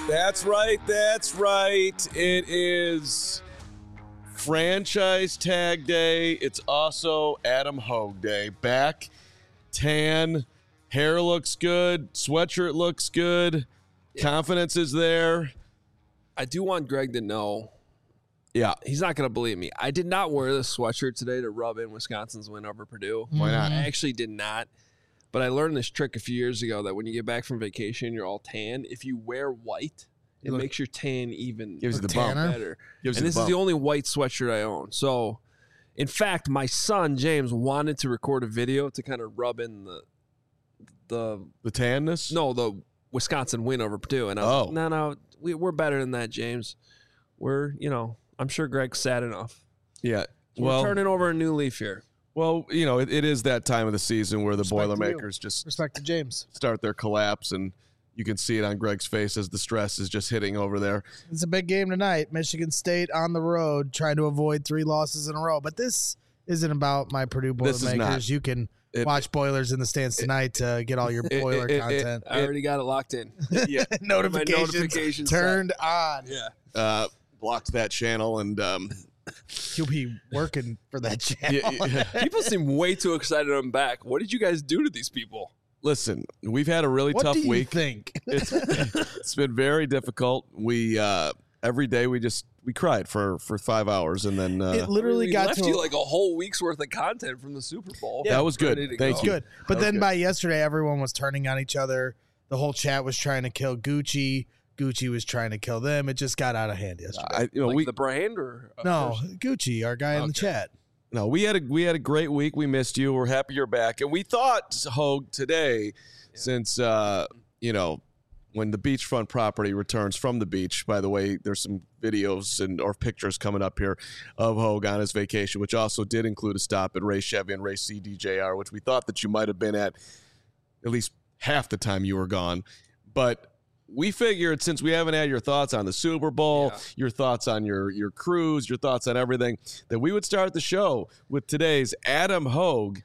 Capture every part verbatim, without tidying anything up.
That's right. That's right. It is franchise tag day. It's also Adam Hogue day. Back, tan, hair looks good, sweatshirt looks good, yeah. Confidence is there. I do want Greg to know. Yeah. He's not going to believe me. I did not wear this sweatshirt today to rub in Wisconsin's win over Purdue. Why not? I actually did not. But I learned this trick a few years ago that when you get back from vacation, you're all tan. If you wear white, it Look, makes your tan even gives you the bump. better. Gives and you this the is bump. the only white sweatshirt I own. So, in fact, my son, James, wanted to record a video to kind of rub in the... The, the tanness? No, the Wisconsin win over Purdue. And I was oh. like, no, no, we, we're better than that, James. We're, you know, I'm sure Greg's sad enough. Yeah. So well, we're turning over a new leaf here. Well, you know, it, it is that time of the season where the Respect Boilermakers just Respect to James. start their collapse, and you can see it on Greg's face as the stress is just hitting over there. It's a big game tonight. Michigan State on the road trying to avoid three losses in a row. But this isn't about my Purdue Boilermakers. You can it, watch Boilers in the Stands tonight to get all your Boiler it, it, content. It, I already got it locked in. Yeah. notifications, notifications turned set. on. Yeah. Uh, blocked that channel, and um, you'll be working for that channel. Yeah, yeah. People seem way too excited I'm back. What did you guys do to these people? Listen, we've had a really what tough do you week. Think it's, it's been very difficult. We uh, every day we just we cried for, for five hours, and then uh, it literally we got left to you like a whole week's worth of content from the Super Bowl. Yeah, that was good. Thank go. you. Good, but that then good. by yesterday, everyone was turning on each other. The whole chat was trying to kill Gucci. Gucci was trying to kill them. It just got out of hand yesterday. I, you know, like we the brand or no Gucci, our guy okay. in the chat. No, we had a we had a great week. We missed you. We're happy you're back, and we thought Hogue today, yeah. since uh, you know when the beachfront property returns from the beach. By the way, there's some videos and or pictures coming up here of Hogue on his vacation, which also did include a stop at Ray Chevy and Ray C D J R, which we thought that you might have been at at least half the time you were gone, but. We figured since we haven't had your thoughts on the Super Bowl, yeah. your thoughts on your, your cruise, your thoughts on everything, that we would start the show with today's Adam Hogue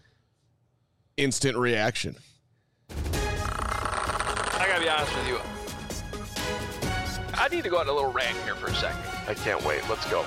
instant reaction. I gotta be honest with you. I need to go on a little rant here for a second. I can't wait. Let's go.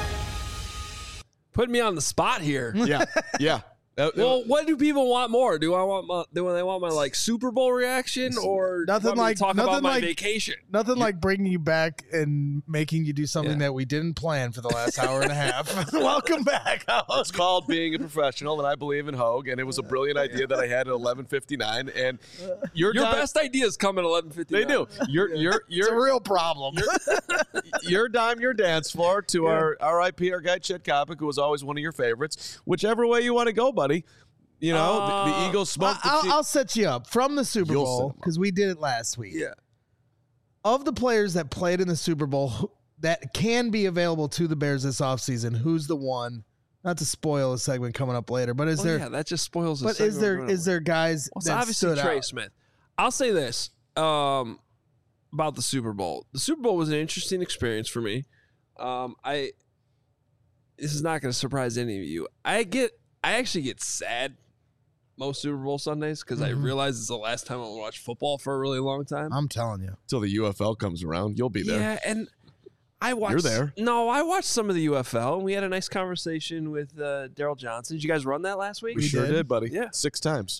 Put me on the spot here. Yeah, yeah. Uh, well, what do people want more? Do I want my, do they want my like Super Bowl reaction or nothing want me like to talk nothing about my like, vacation? Nothing like bringing you back and making you do something yeah. that we didn't plan for the last hour and a half. Welcome back. It's called being a professional, and I believe in Hogue, and it was a brilliant idea that I had at eleven fifty-nine. And your your dime, best ideas come at eleven fifty-nine. They do. You're you're you're it's a real problem. Your, your dime, your dance floor to yeah. our R I P our guy Chet Kopic, who was always one of your favorites. Whichever way you want to go, buddy. You know, uh, the, the Eagles smoked the I'll, team. I'll set you up from the Super You'll Bowl because we did it last week. Yeah. Of the players that played in the Super Bowl that can be available to the Bears this offseason, who's the one? Not to spoil a segment coming up later, but is well, there? Yeah, that just spoils. But is there is there guys well, that obviously stood Trey out? Smith? I'll say this um, about the Super Bowl. The Super Bowl was an interesting experience for me. Um, I this is not going to surprise any of you. I get I actually get sad. Most Super Bowl Sundays because mm-hmm. I realize it's the last time I'll watch football for a really long time. I'm telling you. Until the U F L comes around, you'll be there. Yeah, and I watched. You're there. No, I watched some of the U F L, and we had a nice conversation with uh, Daryl Johnson. Did you guys run that last week? We, we sure did. did, buddy. Yeah. Six times.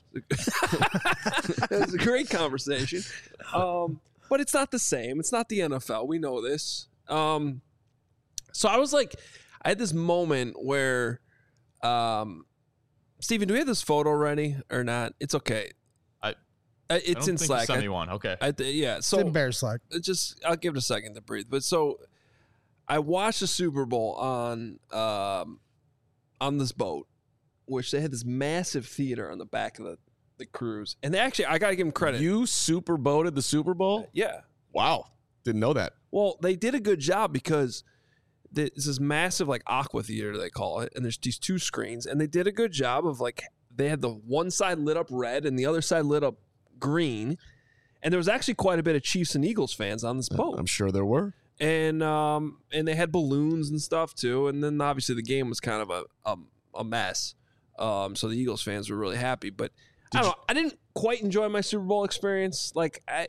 It was a great conversation. Um, but it's not the same. It's not the N F L. We know this. Um, so I was like, I had this moment where um, Steven, do we have this photo ready or not? It's okay. I, uh, it's I don't in think Slack. You sent me one. Okay. I, yeah. So it's in Bear Slack. Just I'll give it a second to breathe. But so I watched the Super Bowl on um, on this boat, which they had this massive theater on the back of the, the cruise, and they actually I got to give them credit. You super boated the Super Bowl? Uh, yeah. Wow. Didn't know that. Well, they did a good job because this is massive like aqua theater they call it, and there's these two screens, and they did a good job of like they had the one side lit up red and the other side lit up green, and there was actually quite a bit of Chiefs and Eagles fans on this boat. I'm sure there were, and um and they had balloons and stuff too, and then obviously the game was kind of a a, a mess, um so the Eagles fans were really happy, but did I don't you- know I didn't quite enjoy my Super Bowl experience. Like I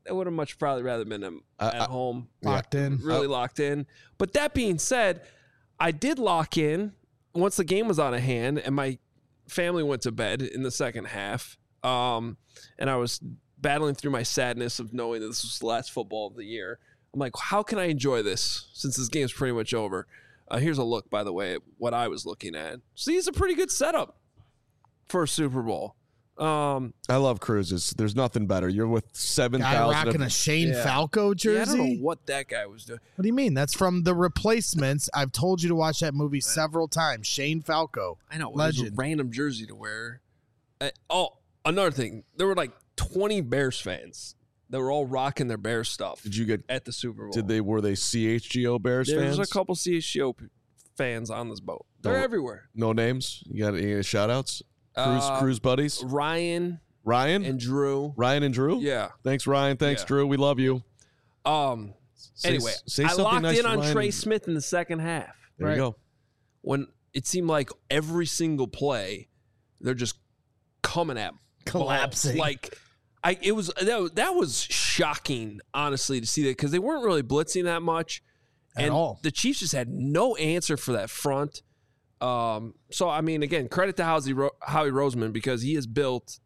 I would have much probably rather been um, Uh, at uh, home, Locked in. really Uh, locked in. But that being said, I did lock in once the game was out of hand, and my family went to bed in the second half. Um, and I was battling through my sadness of knowing that this was the last football of the year. I'm like, how can I enjoy this since this game's pretty much over? Uh, here's a look, by the way, at what I was looking at. See, it's a pretty good setup for a Super Bowl. Um, I love cruises. There's nothing better. You're with seven Guy thousand. rocking a Shane Yeah. Falco jersey. yeah, I don't know what that guy was doing. What do you mean? That's from The Replacements. I've told you to watch that movie several times. Shane Falco. I know. It was a Legend. random jersey to wear. Uh, oh, another thing. There were like twenty Bears fans that were all rocking their Bears stuff Did you get? at the Super Bowl. Did they? Were they C H G O Bears There fans? was a couple C H G O p- fans on this boat. They're Don't- everywhere. No names. You got any shout outs? Cruise, Uh, cruise buddies. Ryan Ryan and Drew. Ryan and Drew. Yeah. Thanks, Ryan. Thanks, Yeah. Drew. We love you. Um. Say- Anyway, say I something locked nice in to on Ryan Trey and- Smith in the second half There Right. you go. when it seemed like every single play they're just coming at Collapsing. balls. Like I, it was that, that was shocking, honestly, to see that because they weren't really blitzing that much, At and all. the Chiefs just had no answer for that front. Um, so I mean, again, credit to Howie, Ro- Howie Roseman because he has built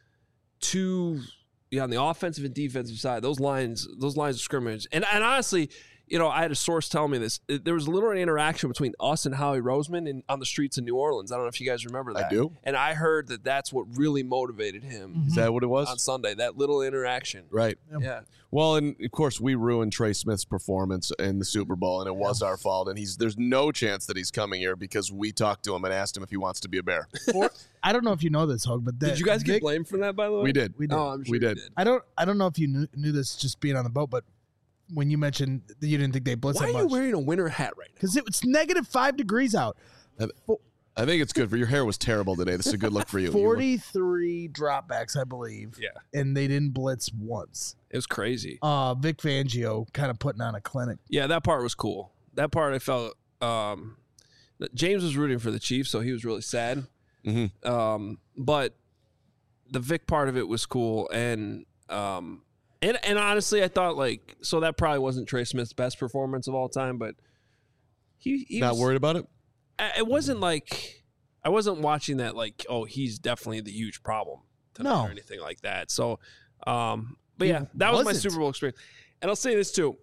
two, yeah, on the offensive and defensive side, those lines, those lines of scrimmage, and and honestly. You know, I had a source tell me this. There was a little interaction between us and Howie Roseman in, on the streets of New Orleans. I don't know if you guys remember that. I do. And I heard that that's what really motivated him Is that what it was? on Sunday, that little interaction. Right. Yeah. Well, and of course we ruined Trey Smith's performance in the Super Bowl, and it was our fault. And he's there's no chance that he's coming here because we talked to him and asked him if he wants to be a Bear. For- I don't know if you know this, Hug, but that, Did you guys get Vic- blamed for that, by the way? We did. We did. Oh, I'm sure We you did. did. I don't. I don't know if you knew, knew this just being on the boat, but when you mentioned that you didn't think they blitzed Why that are you much wearing a winter hat right now? because it was negative five degrees out. I think it's good for your hair was terrible today. This is a good look for you. You look- Forty-three dropbacks, I believe. Yeah. and they didn't blitz once. It was crazy. Uh, Vic Fangio kind of putting on a clinic. Yeah, that part was cool. That part I felt um, James was rooting for the Chiefs, so he was really sad. Mhm. Um, but the Vic part of it was cool, and um, and and honestly, I thought like so that probably wasn't Trey Smith's best performance of all time, but he, he Not was, worried about it. I- It wasn't like I wasn't watching that like oh he's definitely the huge problem tonight No. or anything like that. So, um, but He yeah, that was my wasn't. Super Bowl experience, and I'll say this too.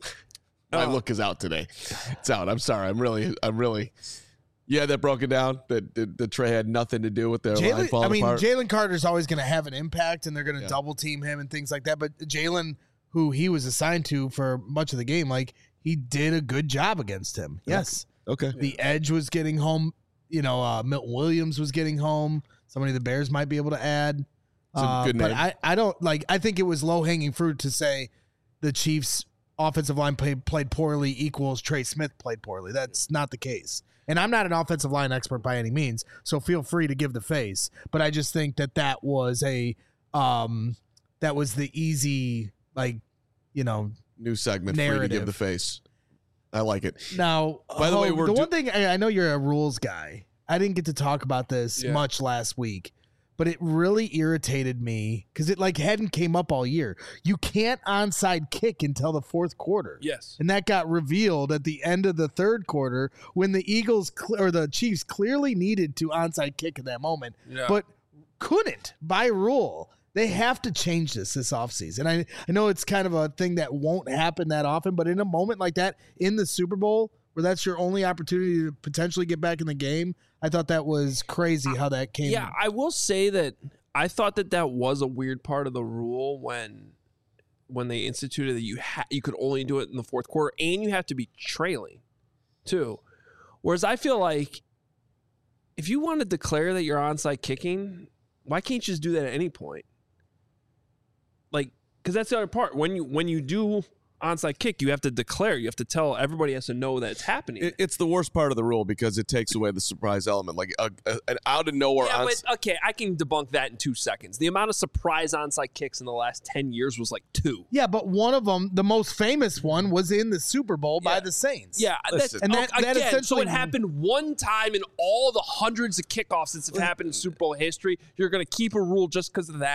My Uh, look is out today. It's out. I'm sorry. I'm really. I'm really. Yeah, that broke it down. That the, the Trey had nothing to do with their line Jalen, falling I mean, apart. Jalen Carter's always going to have an impact, and they're going to Yeah. double team him and things like that. But Jalen, who he was assigned to for much of the game, like he did a good job against him. Yes, okay. the edge was getting home. You know, uh, Milton Williams was getting home. Somebody the Bears might be able to add. It's a Uh, good but name. I, I don't like. I think it was low hanging fruit to say the Chiefs' offensive line play, played poorly equals Trey Smith played poorly. That's not the case. And I'm not an offensive line expert by any means, so feel free to give the face. But I just think that that was a um, that was the easy like you know. New segment for you to narrative. give the face. I like it. Now, By the way, oh, we're the do- one thing I, I know you're a rules guy. I didn't get to talk about this Yeah. much last week, but it really irritated me because it like hadn't came up all year. You can't onside kick until the fourth quarter. Yes. And that got revealed at the end of the third quarter when the Eagles cl- or the Chiefs clearly needed to onside kick in that moment, Yeah. but couldn't by rule. They have to change this this offseason. I, I know it's kind of a thing that won't happen that often, but in a moment like that in the Super Bowl where that's your only opportunity to potentially get back in the game, I thought that was crazy how that came. Yeah, I will say that I thought that that was a weird part of the rule when when they instituted that you ha- you could only do it in the fourth quarter and you have to be trailing too. Whereas I feel like if you want to declare that you're onside kicking, why can't you just do that at any point? Like, because that's the other part. When you when you do onside kick, you have to declare. You have to tell everybody has to know that it's happening. It, it's the worst part of the rule because it takes away the surprise element. Like a, a, an out of nowhere. Yeah, ons- but okay, I can debunk that in two seconds. The amount of surprise onside kicks in the last ten years was like two. Yeah, but one of them, the most famous one, was in the Super Bowl by Yeah. the Saints. Yeah, that's, Listen. And that- okay, that again, so essentially- it happened one time in all the hundreds of kickoffs that have happened in Super Bowl history. You're going to keep a rule just because of that?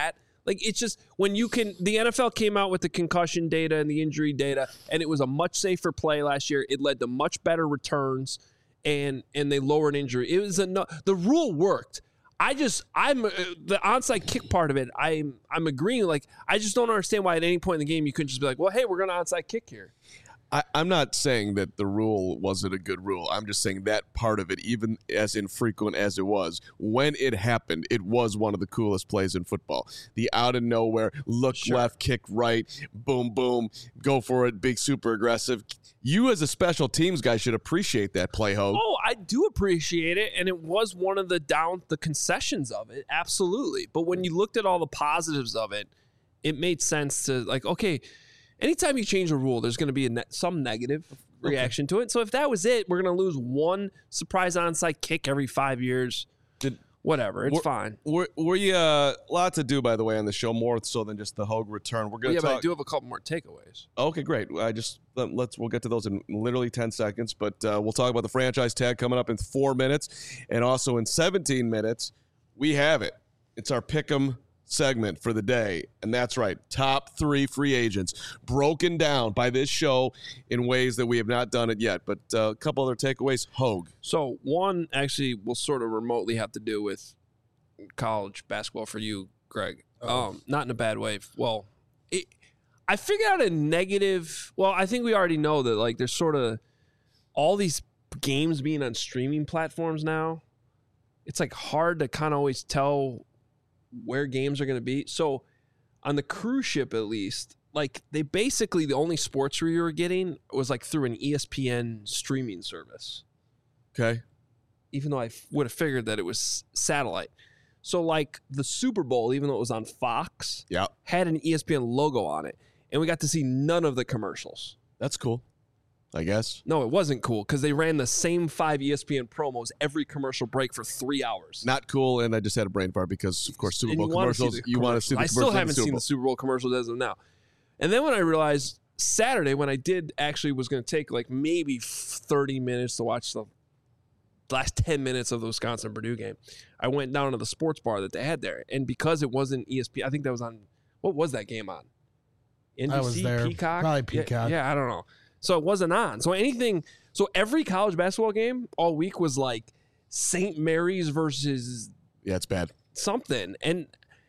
Like, it's just when you can, the N F L came out with the concussion data and the injury data, and it was a much safer play last year. It led to much better returns, and and they lowered injury. It was a no, the rule worked. I just I'm uh, the onside kick part of it. I'm I'm agreeing. Like, I just don't understand why at any point in the game you couldn't just be like, well, hey, we're gonna onside kick here. I, I'm not saying that the rule wasn't a good rule. I'm just saying that part of it, even as infrequent as it was, when it happened, it was one of the coolest plays in football. The out of nowhere, look Sure. left, kick right, boom, boom, go for it, big, super aggressive. You as a special teams guy should appreciate that play, Hogue. Oh, I do appreciate it, and it was one of the down the concessions of it, absolutely. But when you looked at all the positives of it, it made sense to, like, okay, anytime you change a rule, there's going to be a ne- some negative reaction to it. So if that was it, we're going to lose one surprise onside kick every five years. Did, Whatever, it's We're- fine. We're, we uh, lot to do, by the way, on the show, more so than just the Hogue return. We're going Yeah, to but I talk. do have a couple more takeaways. Okay, great. I just let, let's we'll get to those in literally ten seconds, but uh, we'll talk about the franchise tag coming up in four minutes, and also in seventeen minutes, we have it. It's our Pick'em segment for the day, and that's right, top three free agents broken down by this show in ways that we have not done it yet. But uh, a couple other takeaways. Hogue. So one actually will sort of remotely have to do with college basketball for you, Greg. Oh. Um, not in a bad way. Well, it, I figured out a negative. Well, I think we already know that, like, there's sort of all these games being on streaming platforms now. It's like hard to kind of always tell where games are going to be. So on the cruise ship, at least, like, they basically, the only sports we were getting was like through an E S P N streaming service, Okay. even though I f- would have figured that it was satellite. So, like, the Super Bowl, even though it was on Fox, Yeah, had an E S P N logo on it, and we got to see none of the commercials. that's cool, I guess. No, it wasn't cool because they ran the same five E S P N promos every commercial break for three hours. Not cool, and I just had a brain fart because, of course, Super And Bowl you wanna see commercials. the You want to see the I commercials. still in the haven't Super seen Bowl. the Super Bowl commercials as of now. And then when I realized Saturday, when I did actually was going to take like maybe thirty minutes to watch the last ten minutes of the Wisconsin Purdue game, I went down to the sports bar that they had there. And because it wasn't E S P N, I think that was on, what was that game on? N B C, I was there. Peacock? Probably Yeah, Peacock. Yeah, I don't know. So it wasn't on. So anything, so every college basketball game all week was like Saint Mary's versus Yeah, it's bad. something. And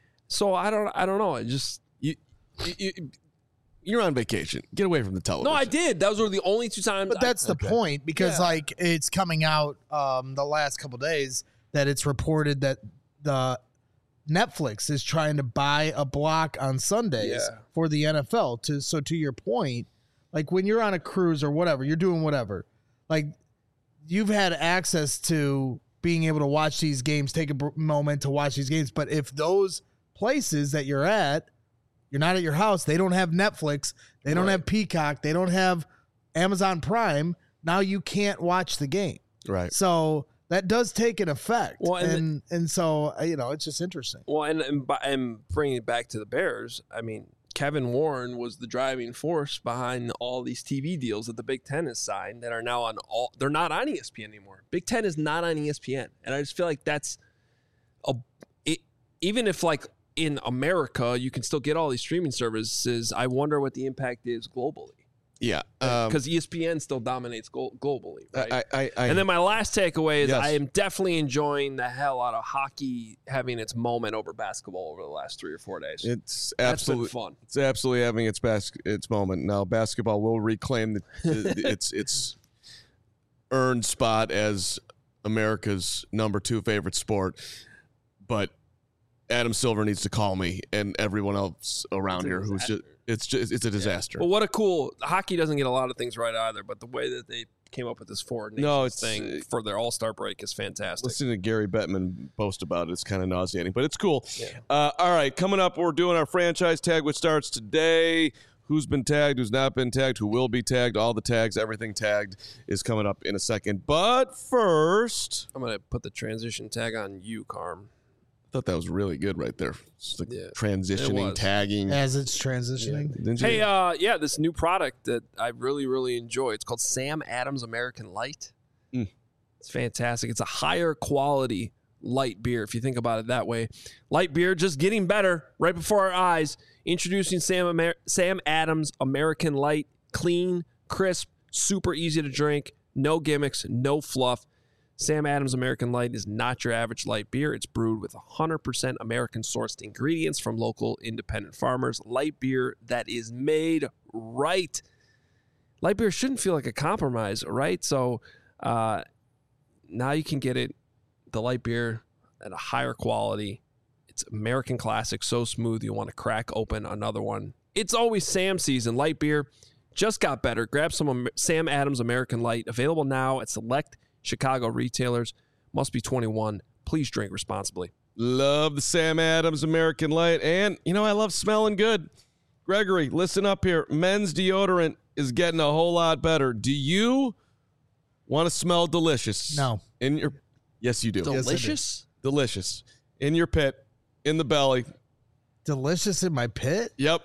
so I don't, I don't know. It just, You, you, you, you're on vacation. Get away from the television. no, I did. Those were the only two times. But that's I, the point, because Yeah. like it's coming out um, the last couple days that it's reported that the Netflix is trying to buy a block on Sundays Yeah. for the N F L. To so to your point, like when you're on a cruise or whatever, you're doing whatever, like you've had access to being able to watch these games, take a br- moment to watch these games. But if those places that you're at, you're not at your house, they don't have Netflix, they don't Right. have Peacock, they don't have Amazon Prime, now you can't watch the game. Right. So that does take an effect. Well, and and and, so, uh, you know, it's just interesting. well, and, and by- and bringing it back to the Bears, I mean, Kevin Warren was the driving force behind all these T V deals that the Big Ten has signed that are now on all. They're not on E S P N anymore. Big Ten is not on E S P N, and I just feel like that's a it, even if like in America you can still get all these streaming services. I wonder what the impact is globally, Yeah. Um, because E S P N still dominates glo- globally, right? I, I, I, And then my last takeaway is Yes. I am definitely enjoying the hell out of hockey having its moment over basketball over the last three or four days. it's That's absolutely been fun. It's absolutely having its bas- its moment. Now basketball will reclaim the, the, its its earned spot as America's number two favorite sport, but Adam Silver needs to call me and everyone else around It's a here who's disaster. just it's just it's a disaster. But what a cool hockey doesn't get a lot of things right either. But the way that they came up with this forward nations No, it's- thing for their All Star break is fantastic. Listening to Gary Bettman post about it is kind of nauseating, but it's cool. Yeah. Uh, all right, coming up, we're doing our franchise tag, which starts today. Who's been tagged, who's not been tagged, who will be tagged, all the tags, everything tagged is coming up in a second. But first, I'm gonna put the transition tag on you, Carm. I thought that was really good right there. It's like Yeah, it transitioning, was. tagging. As it's transitioning. Didn't you? Hey, uh, yeah, this new product that I really, really enjoy. It's called Sam Adams American Light. Mm. It's fantastic. It's a higher quality light beer, if you think about it that way. Light beer just getting better right before our eyes. Introducing Sam, Amer- Sam Adams American Light. Clean, crisp, super easy to drink. No gimmicks, no fluff. Sam Adams American Light is not your average light beer. It's brewed with one hundred percent American-sourced ingredients from local independent farmers. Light beer that is made right. Light beer shouldn't feel like a compromise, right? So uh, now you can get it, the light beer, at a higher quality. It's American classic, so smooth you'll want to crack open another one. It's always Sam season. Light beer just got better. Grab some Sam Adams American Light. Available now at select Chicago retailers. Must be twenty-one. Please drink responsibly. Love the Sam Adams American Light. And, you know, I love smelling good. Gregory, listen up here. Men's deodorant is getting a whole lot better. Do you want to smell delicious? No. In your Yes, you do. Yes, I do. Delicious? Delicious. In your pit, in the belly. Delicious in my pit? Yep.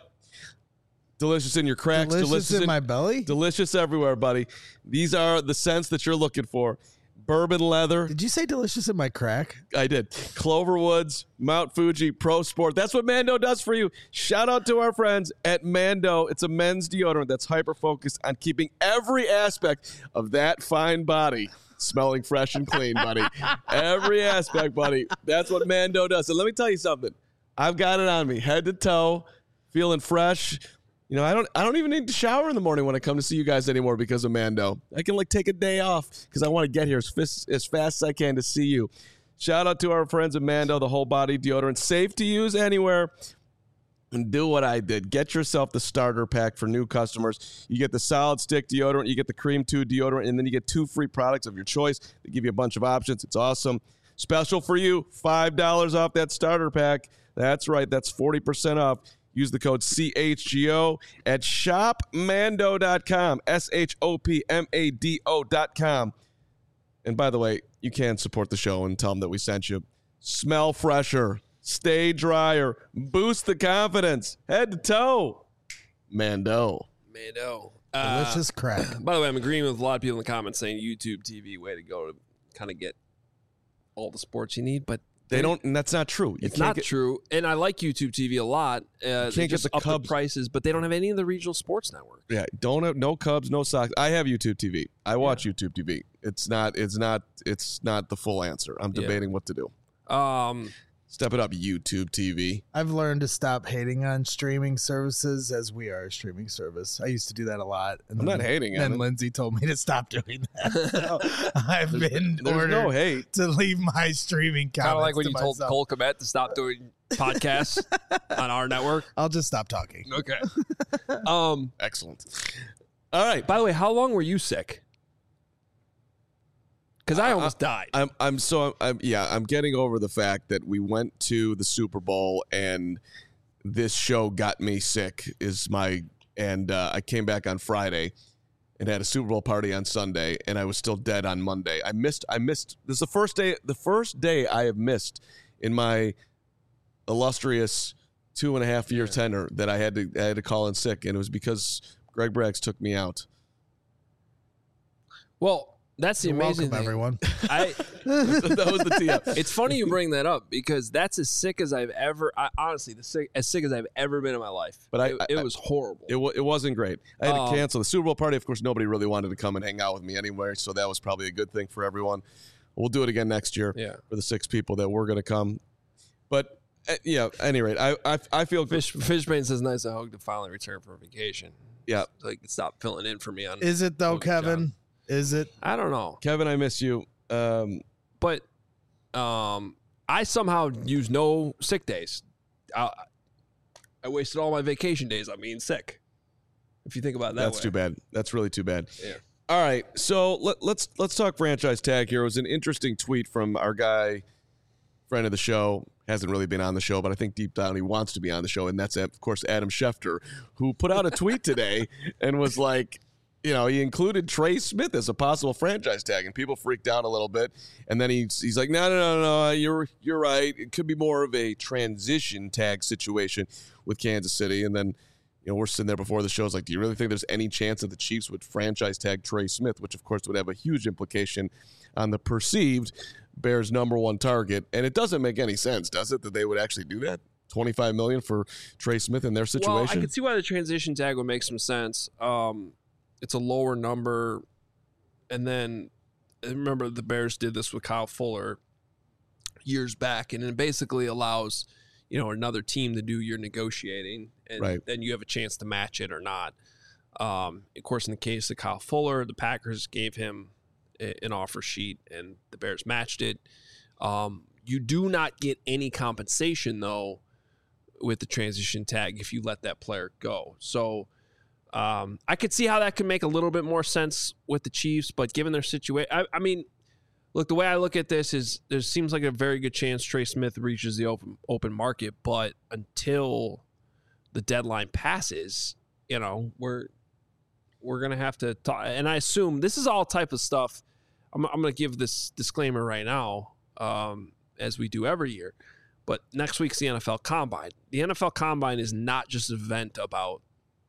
Delicious in your cracks. Delicious, Delicious, in, in my belly? Delicious everywhere, buddy. These are the scents that you're looking for. Bourbon leather. Did you say delicious in my crack? I did. Cloverwoods, Mount Fuji, Pro Sport. That's what Mando does for you. Shout out to our friends at Mando. It's a men's deodorant that's hyper-focused on keeping every aspect of that fine body smelling fresh and clean, buddy. Every aspect, buddy. That's what Mando does. And let me tell you something. I've got it on me, head to toe, feeling fresh. You know, I don't I don't even need to shower in the morning when I come to see you guys anymore because of Mando. I can, like, take a day off because I want to get here as fast, as fast as I can to see you. Shout out to our friends at Mando, the whole body deodorant. Safe to use anywhere. And do what I did. Get yourself the starter pack for new customers. You get the solid stick deodorant, you get the cream two deodorant, and then you get two free products of your choice. They give you a bunch of options. It's awesome. Special for you, five dollars off that starter pack. That's right. That's forty percent off. Use the code C H G O at shop mando dot com, S H O P M A D O dot com. And by the way, you can support the show and tell them that we sent you. Smell fresher, stay drier, boost the confidence, head to toe. Mando. Mando. Delicious crack. By the way, I'm agreeing with a lot of people in the comments saying YouTube T V, way to go to kind of get all the sports you need, but They don't, and that's not true. You it's can't not get, true. And I like YouTube T V a lot. Uh, they get just the up Cubs. the prices, but they don't have any of the regional sports networks. Yeah, don't have no Cubs, no Sox. I have YouTube T V. I watch yeah. YouTube T V. It's not. It's not. It's not the full answer. I'm debating yeah. what to do. Um, Step it up, YouTube T V. I've learned to stop hating on streaming services as we are a streaming service. I used to do that a lot. And I'm then, not hating on And it. Lindsay told me to stop doing that. So I've there's, been there's ordered no hate. to leave my streaming comments. Kind of like when to you myself. told Cole Kmet to stop doing podcasts on our network. I'll just stop talking. Okay. Um, Excellent. All right. By the way, how long were you sick? Because I almost I, died. I'm. I'm so. I'm. Yeah. I'm getting over the fact that we went to the Super Bowl and this show got me sick. Is my and uh, I came back on Friday and had a Super Bowl party on Sunday, and I was still dead on Monday. I missed. I missed. This is the first day. The first day I have missed in my illustrious two and a half year yeah. tenure that I had to. I had to call in sick, and it was because Greg Braggs took me out. Well. That's the You're amazing welcome, thing. everyone. I, that was the tee up. It's funny you bring that up because that's as sick as I've ever. I, honestly, the sick, as sick as I've ever been in my life. But I, it, I, it was horrible. It w- it wasn't great. I had um, to cancel the Super Bowl party. Of course, nobody really wanted to come and hang out with me anywhere, so that was probably a good thing for everyone. We'll do it again next year yeah. for the six people that were going to come. But uh, yeah, at any rate, I I, I feel Fish Fishbane says nice to hug to finally return from vacation. Yeah, so he can stop filling in for me on. Is it though, Kevin? John. Is it? I don't know. Kevin, I miss you. Um, but um, I somehow use no sick days. I, I wasted all my vacation days on being sick. If you think about it that that's way. too bad. That's really too bad. Yeah. All right, so let, let's let's talk franchise tag here. It was an interesting tweet from our guy, friend of the show, hasn't really been on the show, but I think deep down he wants to be on the show, and that's, of course, Adam Schefter, who put out a tweet today and was like, you know, he included Trey Smith as a possible franchise tag, and people freaked out a little bit. And then he's he's like, no, no, no, no, you're you're right. It could be more of a transition tag situation with Kansas City. And then, you know, we're sitting there before the show. It's like, do you really think there's any chance that the Chiefs would franchise tag Trey Smith, which of course would have a huge implication on the perceived Bears' number one target. And it doesn't make any sense, does it, that they would actually do that? twenty-five million dollars for Trey Smith in their situation? Well, I can see why the transition tag would make some sense. Um, it's a lower number. And then, remember, the Bears did this with Kyle Fuller years back, and it basically allows, you know, another team to do your negotiating, and right. then you have a chance to match it or not. Um, of course, in the case of Kyle Fuller, the Packers gave him a, an offer sheet, and the Bears matched it. Um, you do not get any compensation, though, with the transition tag if you let that player go. So um, I could see how that could make a little bit more sense with the Chiefs, but given their situation, I, I mean, look, the way I look at this is there seems like a very good chance Trey Smith reaches the open open market, but until the deadline passes, you know, we're we're gonna have to talk. And I assume this is all type of stuff. I'm, I'm gonna give this disclaimer right now, um, as we do every year. But next week's the N F L Combine. The N F L Combine is not just an event about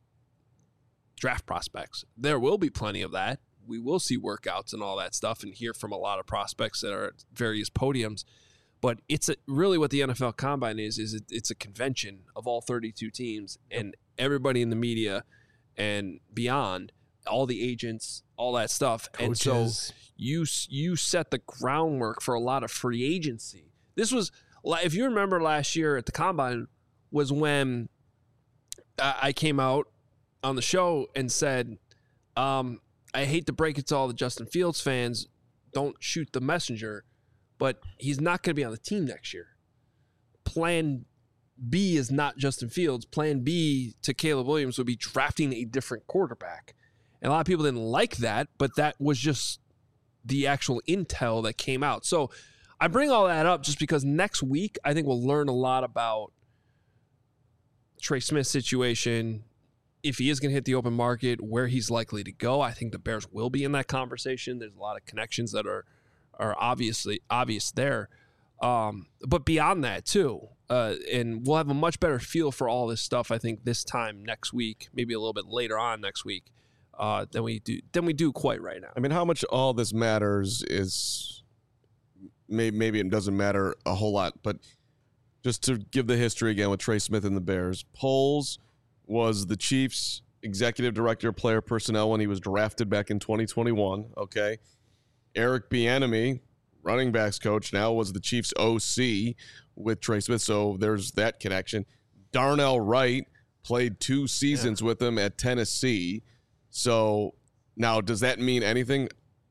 draft prospects. There will be plenty of that. We will see workouts and all that stuff and hear from a lot of prospects that are at various podiums. But it's a, really what the N F L Combine is, is it, it's a convention of all thirty-two teams and everybody in the media and beyond, all the agents, all that stuff. Coaches. And so you you set the groundwork for a lot of free agency. This was... If you remember last year at the Combine was when I came out on the show and said, um, I hate to break it to all the Justin Fields fans, don't shoot the messenger, but he's not going to be on the team next year. Plan B is not Justin Fields. Plan B to Caleb Williams would be drafting a different quarterback. And a lot of people didn't like that, but that was just the actual intel that came out. So I bring all that up just because next week I think we'll learn a lot about Trey Smith's situation, if he is going to hit the open market, where he's likely to go. I think the Bears will be in that conversation. There's a lot of connections that are are obviously obvious there. Um, but beyond that too, uh, and we'll have a much better feel for all this stuff, I think, this time next week, maybe a little bit later on next week, uh, than we do than we do quite right now. I mean, how much all this matters is... Maybe it doesn't matter a whole lot, but just to give the history again with Trey Smith and the Bears, Poles was the Chiefs' executive director of player personnel when he was drafted back in twenty twenty-one, okay? Eric Bieniemy, running backs coach, now was the Chiefs' O C with Trey Smith, so there's that connection. Darnell Wright played two seasons yeah. with him at Tennessee. So now, does that mean anything?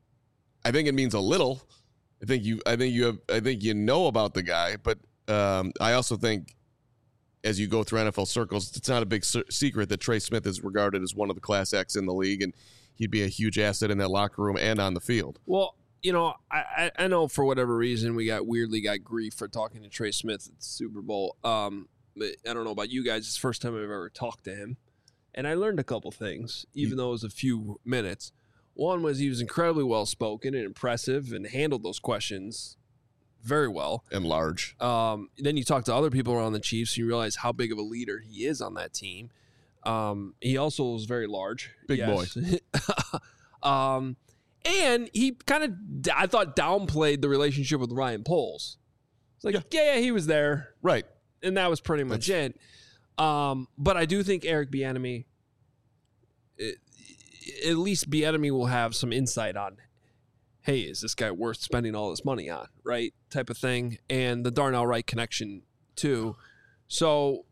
I think it means a little. I think you. I think you have. I think you know about the guy, but um, I also think, as you go through N F L circles, it's not a big se- secret that Trey Smith is regarded as one of the class acts in the league, and he'd be a huge asset in that locker room and on the field. Well, you know, I, I know for whatever reason we got weirdly got grief for talking to Trey Smith at the Super Bowl. Um, but I don't know about you guys. It's the first time I've ever talked to him, and I learned a couple things, even though it was a few minutes. One was he was incredibly well-spoken and impressive and handled those questions very well. And large. Um, then you talk to other people around the Chiefs and you realize how big of a leader he is on that team. Um, he also was very large. Big yes. boy. um, and he kind of, I thought, downplayed the relationship with Ryan Poles. It's like, yeah, yeah, yeah he was there. Right. And that was pretty much That's... it. Um, but I do think Eric Bieniemy, it, at least Bieniemy will have some insight on, hey, is this guy worth spending all this money on, right? Type of thing. And the Darnell Wright connection, too. So,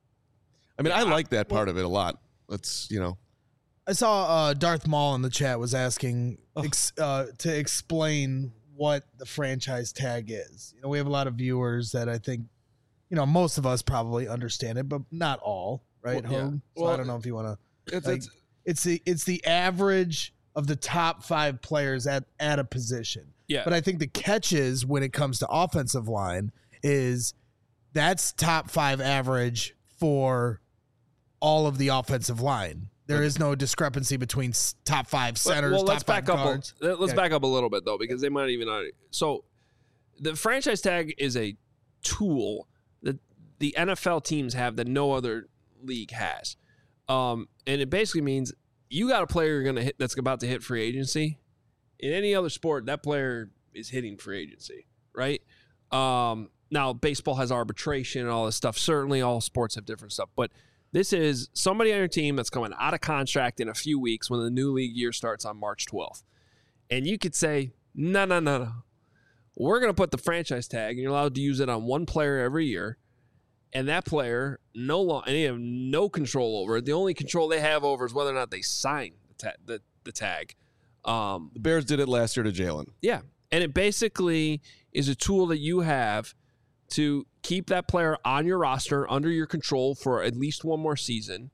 I mean, yeah, I like that part well, of it a lot. Let's, you know. I saw uh, Darth Maul in the chat was asking oh. ex, uh, to explain what the franchise tag is. You know, we have a lot of viewers that I think, you know, most of us probably understand it, but not all, right, well, Hogue? Yeah. So well, I don't know if you want to. It's, like, it's It's the it's the average of the top five players at, at a position. Yeah. But I think the catches when it comes to offensive line is that's top five average for all of the offensive line. There is no discrepancy between top five centers. Well, top let's back five up. guards. A, let's yeah. back up a little bit though, because they might even not. So, the franchise tag is a tool that the N F L teams have that no other league has. Um, and it basically means you got a player you're going to hit that's about to hit free agency. In any other sport, that player is hitting free agency, right? Um, now, baseball has arbitration and all this stuff. Certainly, all sports have different stuff. But this is somebody on your team that's coming out of contract in a few weeks when the new league year starts on March twelfth. And you could say, no, no, no, no. We're going to put the franchise tag, and you're allowed to use it on one player every year. And that player, no long, and they have no control over it. The only control they have over is whether or not they sign the, ta- the, the tag. Um, The Bears did it last year to Jalen. Yeah. And it basically is a tool that you have to keep that player on your roster under your control for at least one more season,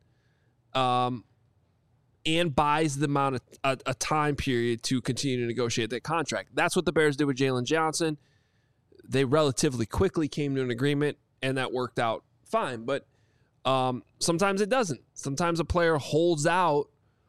um, and buys the amount of a, a time period to continue to negotiate that contract. That's what the Bears did with Jalen Johnson. They relatively quickly came to an agreement, and that worked out fine. But um, sometimes it doesn't. Sometimes a player holds out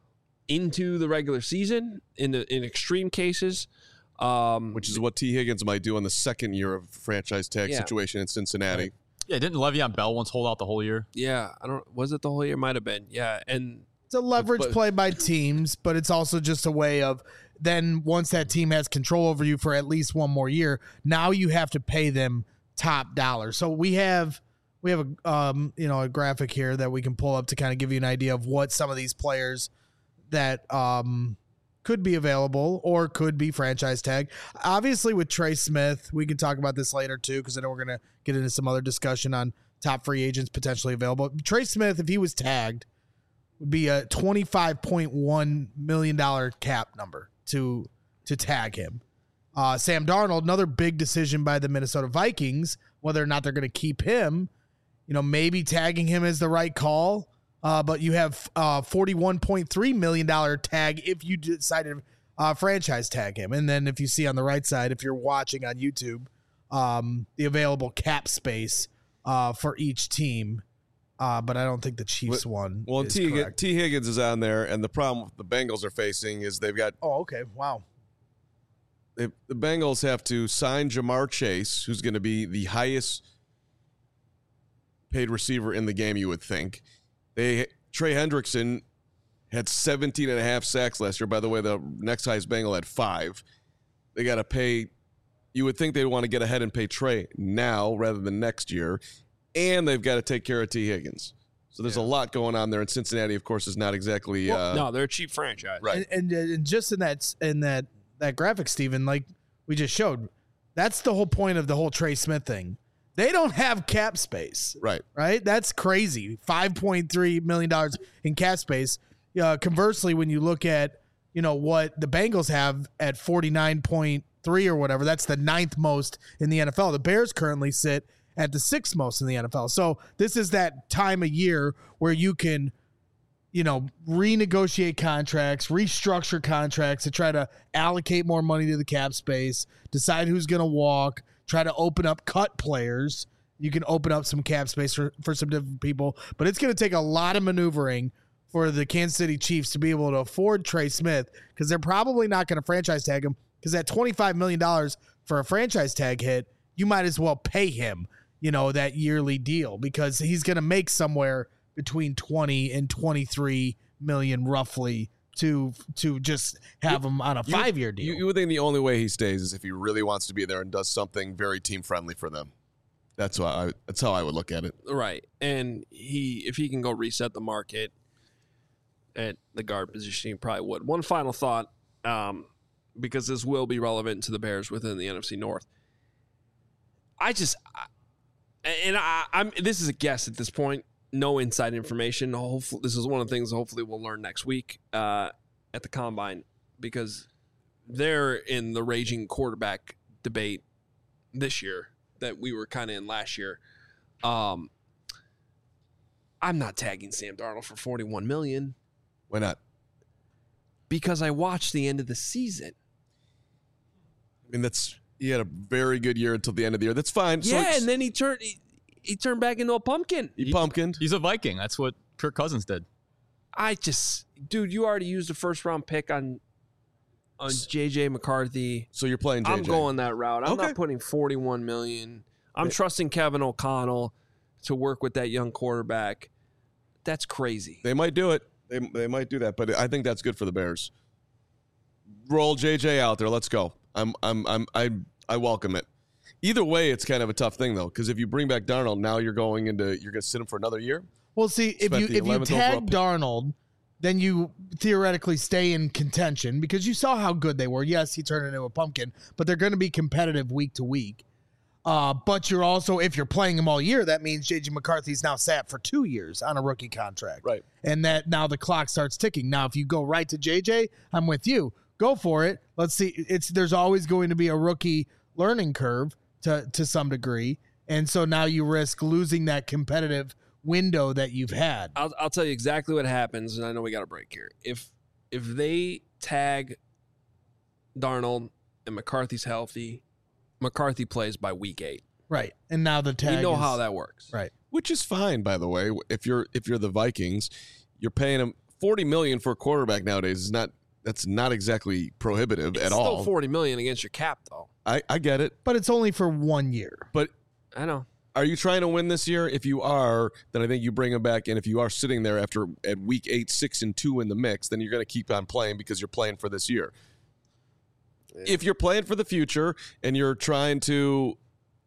into the regular season in the, in extreme cases. Um, Which is what T. Higgins might do in the second year of franchise tag Yeah. situation in Cincinnati. Yeah, didn't Le'Veon Bell once hold out the whole year? yeah, I don't. Was it the whole year? Might have been. Yeah, and It's a leverage But- play by teams, but it's also just a way of then once that team has control over you for at least one more year, now you have to pay them top dollar. So we have we have a um, you know a graphic here that we can pull up to kind of give you an idea of what some of these players that um, could be available or could be franchise tag. Obviously, with Trey Smith, we can talk about this later too, because I know we're gonna get into some other discussion on top free agents potentially available. Trey Smith, if he was tagged, would be a twenty-five point one million dollars cap number to to tag him. Uh, Sam Darnold, another big decision by the Minnesota Vikings, whether or not they're going to keep him. You know, maybe tagging him is the right call, uh, but you have uh, forty-one point three million dollars tag if you decide to uh, franchise tag him. And then if you see on the right side, if you're watching on YouTube, um, the available cap space uh, for each team. Uh, but I don't think the Chiefs one Well, is T. correct. T. Higgins is on there, and the problem the Bengals are facing is they've got Oh, okay. Wow. they, the Bengals have to sign Jamar Chase, who's going to be the highest paid receiver in the game, you would think. They Trey Hendrickson had seventeen and a half sacks last year. By the way, the next highest Bengal had five. They got to pay. You would think they'd want to get ahead and pay Trey now rather than next year. And they've got to take care of T. Higgins. So there's Yeah. a lot going on there. And Cincinnati, of course, is not exactly well, uh, no, they're a cheap franchise. right. And, and and just in that in that that graphic, Steven, like we just showed, that's the whole point of the whole Trey Smith thing. They don't have cap space, Right. right? That's crazy. five point three million dollars in cap space. Uh, conversely, when you look at, you know, what the Bengals have at forty-nine point three or whatever, that's the ninth most in the N F L. The Bears currently sit at the sixth most in the N F L. So this is that time of year where you can, you know, renegotiate contracts, restructure contracts to try to allocate more money to the cap space, decide who's going to walk, try to open up cut players. You can open up some cap space for, for some different people, but it's going to take a lot of maneuvering for the Kansas City Chiefs to be able to afford Trey Smith, because they're probably not going to franchise tag him, because at twenty-five million dollars for a franchise tag hit, you might as well pay him, you know, that yearly deal, because he's going to make somewhere between twenty and twenty-three million roughly to to just have him on a You would- five-year deal. You, you would think the only way he stays is if he really wants to be there and does something very team friendly for them. That's why I, that's how I would look at it. Right. And he, if he can go reset the market at the guard position, he probably would. One final thought, um, because this will be relevant to the Bears within the N F C North. I just, I, and I, I'm. This is a guess at this point. No inside information. Hopefully, this is one of the things. Hopefully, we'll learn next week uh, at the combine, because they're in the raging quarterback debate this year that we were kind of in last year. Um, I'm not tagging Sam Darnold for forty-one million dollars Why not? because I watched the end of the season. I mean, that's he had a very good year until the end of the year. That's fine. So Yeah, it's- and then he turned he, he turned back into a pumpkin. he pumpkined. He's a Viking. That's what Kirk Cousins did. I just, dude, you already used a first round pick on on J J McCarthy. So you're playing J J. I'm going that route. I'm Okay. not putting forty-one million. I'm trusting Kevin O'Connell to work with that young quarterback. That's crazy. They might do it. They, they might do that, but I think that's good for the Bears. Roll J J out there. Let's go. I'm I'm I'm I I welcome it. Either way, it's kind of a tough thing though, because if you bring back Darnold, now you're going into you're going to sit him for another year. Well, see, if Spent you the if you eleventh overall tag pick. Darnold, then you theoretically stay in contention because you saw how good they were. Yes, he turned into a pumpkin, but they're going to be competitive week to week. Uh, but you're also, if you're playing him all year, that means J J McCarthy's now sat for two years on a rookie contract. Right. And that now the clock starts ticking. Now, if you go right to J J, I'm with you. Go for it. Let's see. It's there's always going to be a rookie learning curve to to some degree, and so now you risk losing that competitive window that you've had. I'll, I'll tell you exactly what happens, and I know we got a break here. If if they tag Darnold and McCarthy's healthy, McCarthy plays by week eight. Right. And now the tag You know is- how that works. Right. Which is fine, by the way. If you're if you're the Vikings, you're paying him forty million for a quarterback nowadays. Is not that's not exactly prohibitive It's at still all. forty million against your cap, though. I, I get it, But it's only for one year. but I know. are you trying to win this year? If you are, then I think you bring him back. And if you are sitting there after at week eight, six and two in the mix, then you're going to keep on playing because you're playing for this year. If you're playing for the future and you're trying to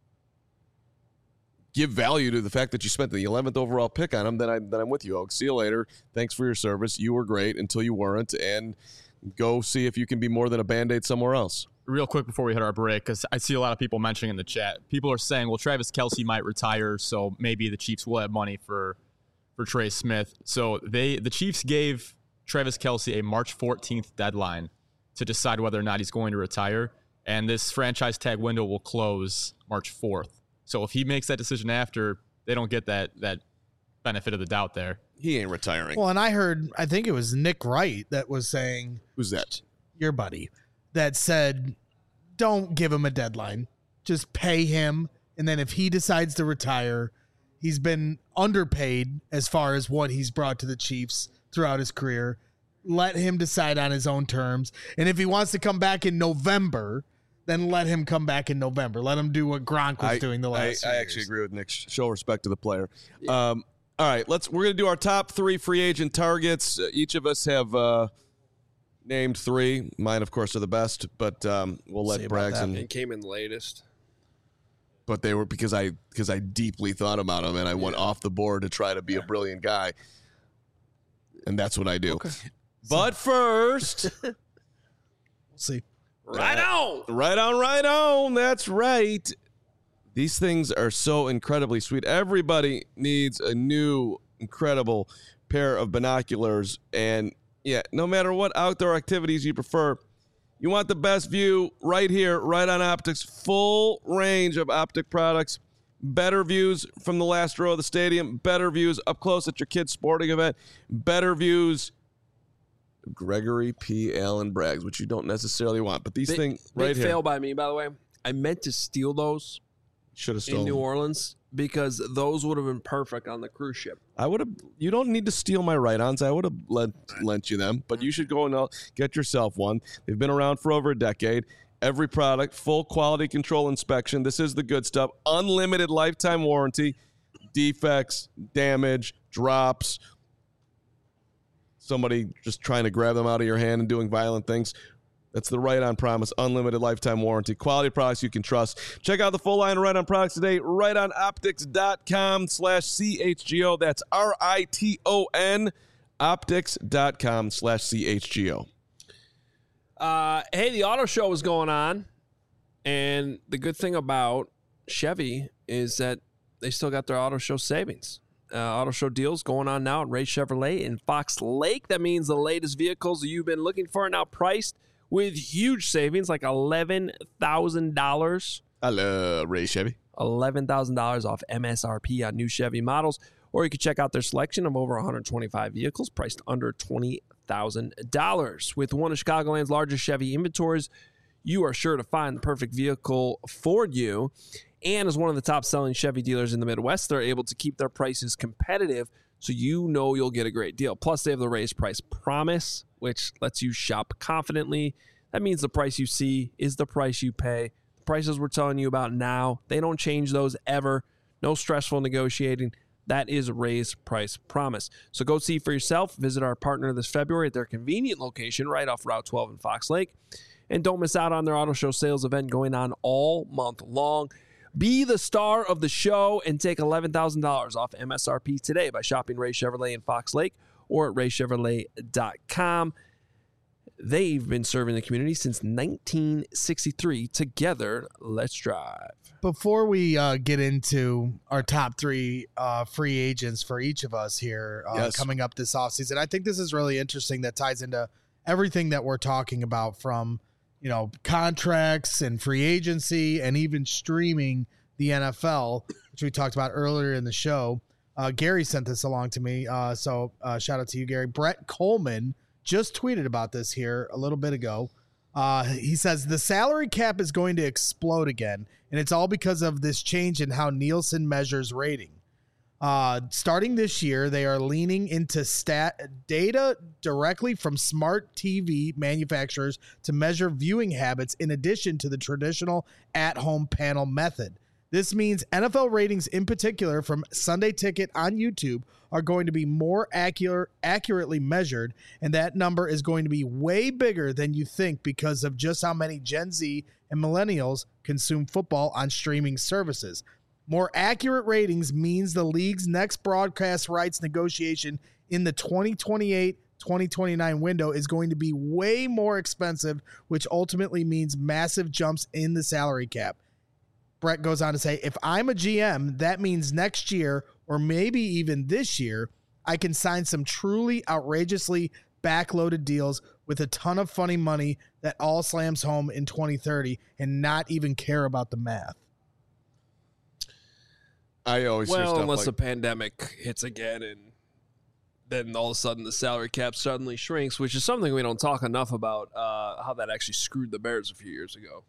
give value to the fact that you spent the eleventh overall pick on him, then, I, then I'm with you, Oak. See you later. Thanks for your service. You were great until you weren't. And go see if you can be more than a Band-Aid somewhere else. Real quick before we hit our break, because I see a lot of people mentioning in the chat, people are saying, well, Travis Kelce might retire, so maybe the Chiefs will have money for for Trey Smith. So they the Chiefs gave Travis Kelce a March fourteenth deadline to decide whether or not he's going to retire, and this franchise tag window will close March fourth. So if he makes that decision after, they don't get that that benefit of the doubt there. He ain't retiring. Well, and I heard, I think it was Nick Wright that was saying, Who's that? your buddy, that said, don't give him a deadline. Just pay him. And then if he decides to retire, he's been underpaid as far as what he's brought to the Chiefs throughout his career. Let him decide on his own terms. And if he wants to come back in November, then let him come back in November. Let him do what Gronk was I, doing the last I, few I actually years. agree with Nick. Show respect to the player. Um, all right, let's. We're gonna do our top three free agent targets. Uh, each of us have uh, named three. Mine, of course, are the best, but um, we'll let See about Braggs that. and. It came in latest. But they were because I because I deeply thought about them and I went off the board to try to be a brilliant guy, and that's what I do. But first, We'll see. Right on. right on, right on. That's right. These things are so incredibly sweet. Everybody needs a new, incredible pair of binoculars. And yeah, no matter what outdoor activities you prefer, you want the best view right here, right on Optics. Full range of Optic products. Better views from the last row of the stadium. Better views up close at your kid's sporting event. Better views Gregory P. Allen Braggs, which you don't necessarily want. But these Big, things big right here. fail by me, by the way. I meant to steal those Should have in stolen. New Orleans because those would have been perfect on the cruise ship. I would have. You don't need to steal my right-ons. I would have lent lent you them, but you should go and uh, get yourself one. They've been around for over a decade. Every product, full quality control inspection. This is the good stuff. Unlimited lifetime warranty. Defects, damage, drops. Somebody just trying to grab them out of your hand and doing violent things. That's the Right On promise. Unlimited lifetime warranty. Quality products you can trust. Check out the full line of Right On products today. right on optics dot com slash C H G O. That's R I T O N. optics dot com slash C H G O. Uh, hey, the auto show is going on. And the good thing about Chevy is that they still got their auto show savings. Uh, auto show deals going on now at Ray Chevrolet in Fox Lake. That means the latest vehicles you've been looking for are now priced with huge savings, like eleven thousand dollars. I love Ray Chevy. eleven thousand dollars off M S R P on new Chevy models. Or you can check out their selection of over one hundred twenty-five vehicles priced under twenty thousand dollars. With one of Chicagoland's largest Chevy inventories, you are sure to find the perfect vehicle for you. And as one of the top-selling Chevy dealers in the Midwest, they're able to keep their prices competitive so you know you'll get a great deal. Plus, they have the raised price promise, which lets you shop confidently. That means the price you see is the price you pay. The prices we're telling you about now, they don't change those ever. No stressful negotiating. That is a raised price promise. So go see for yourself. Visit our partner this February at their convenient location right off Route twelve in Fox Lake. And don't miss out on their auto show sales event going on all month long. Be the star of the show and take eleven thousand dollars off M S R P today by shopping Ray Chevrolet in Fox Lake or at ray chevrolet dot com. They've been serving the community since nineteen sixty-three. Together, let's drive. Before we uh, get into our top three uh, free agents for each of us here uh, Yes. coming up this offseason, I think this is really interesting that ties into everything that we're talking about, from you know contracts and free agency and even streaming the N F L, which we talked about earlier in the show. Uh, Gary sent this along to me, uh, so uh, shout out to you, Gary. Brett Coleman just tweeted about this here a little bit ago. Uh, he says the salary cap is going to explode again, and it's all because of this change in how Nielsen measures rating. Uh, starting this year, they are leaning into stat data directly from smart T V manufacturers to measure viewing habits in addition to the traditional at-home panel method. This means N F L ratings in particular from Sunday Ticket on YouTube are going to be more accurate, accurately measured, and that number is going to be way bigger than you think because of just how many Gen Z and millennials consume football on streaming services. More accurate ratings means the league's next broadcast rights negotiation in the twenty twenty-eight twenty twenty-nine window is going to be way more expensive, which ultimately means massive jumps in the salary cap. Brett goes on to say, if I'm a G M, that means next year, or maybe even this year, I can sign some truly outrageously backloaded deals with a ton of funny money that all slams home in twenty thirty and not even care about the math. I always hear Well, stuff unless like, the pandemic hits again and then all of a sudden the salary cap suddenly shrinks, which is something we don't talk enough about, uh, how that actually screwed the Bears a few years ago.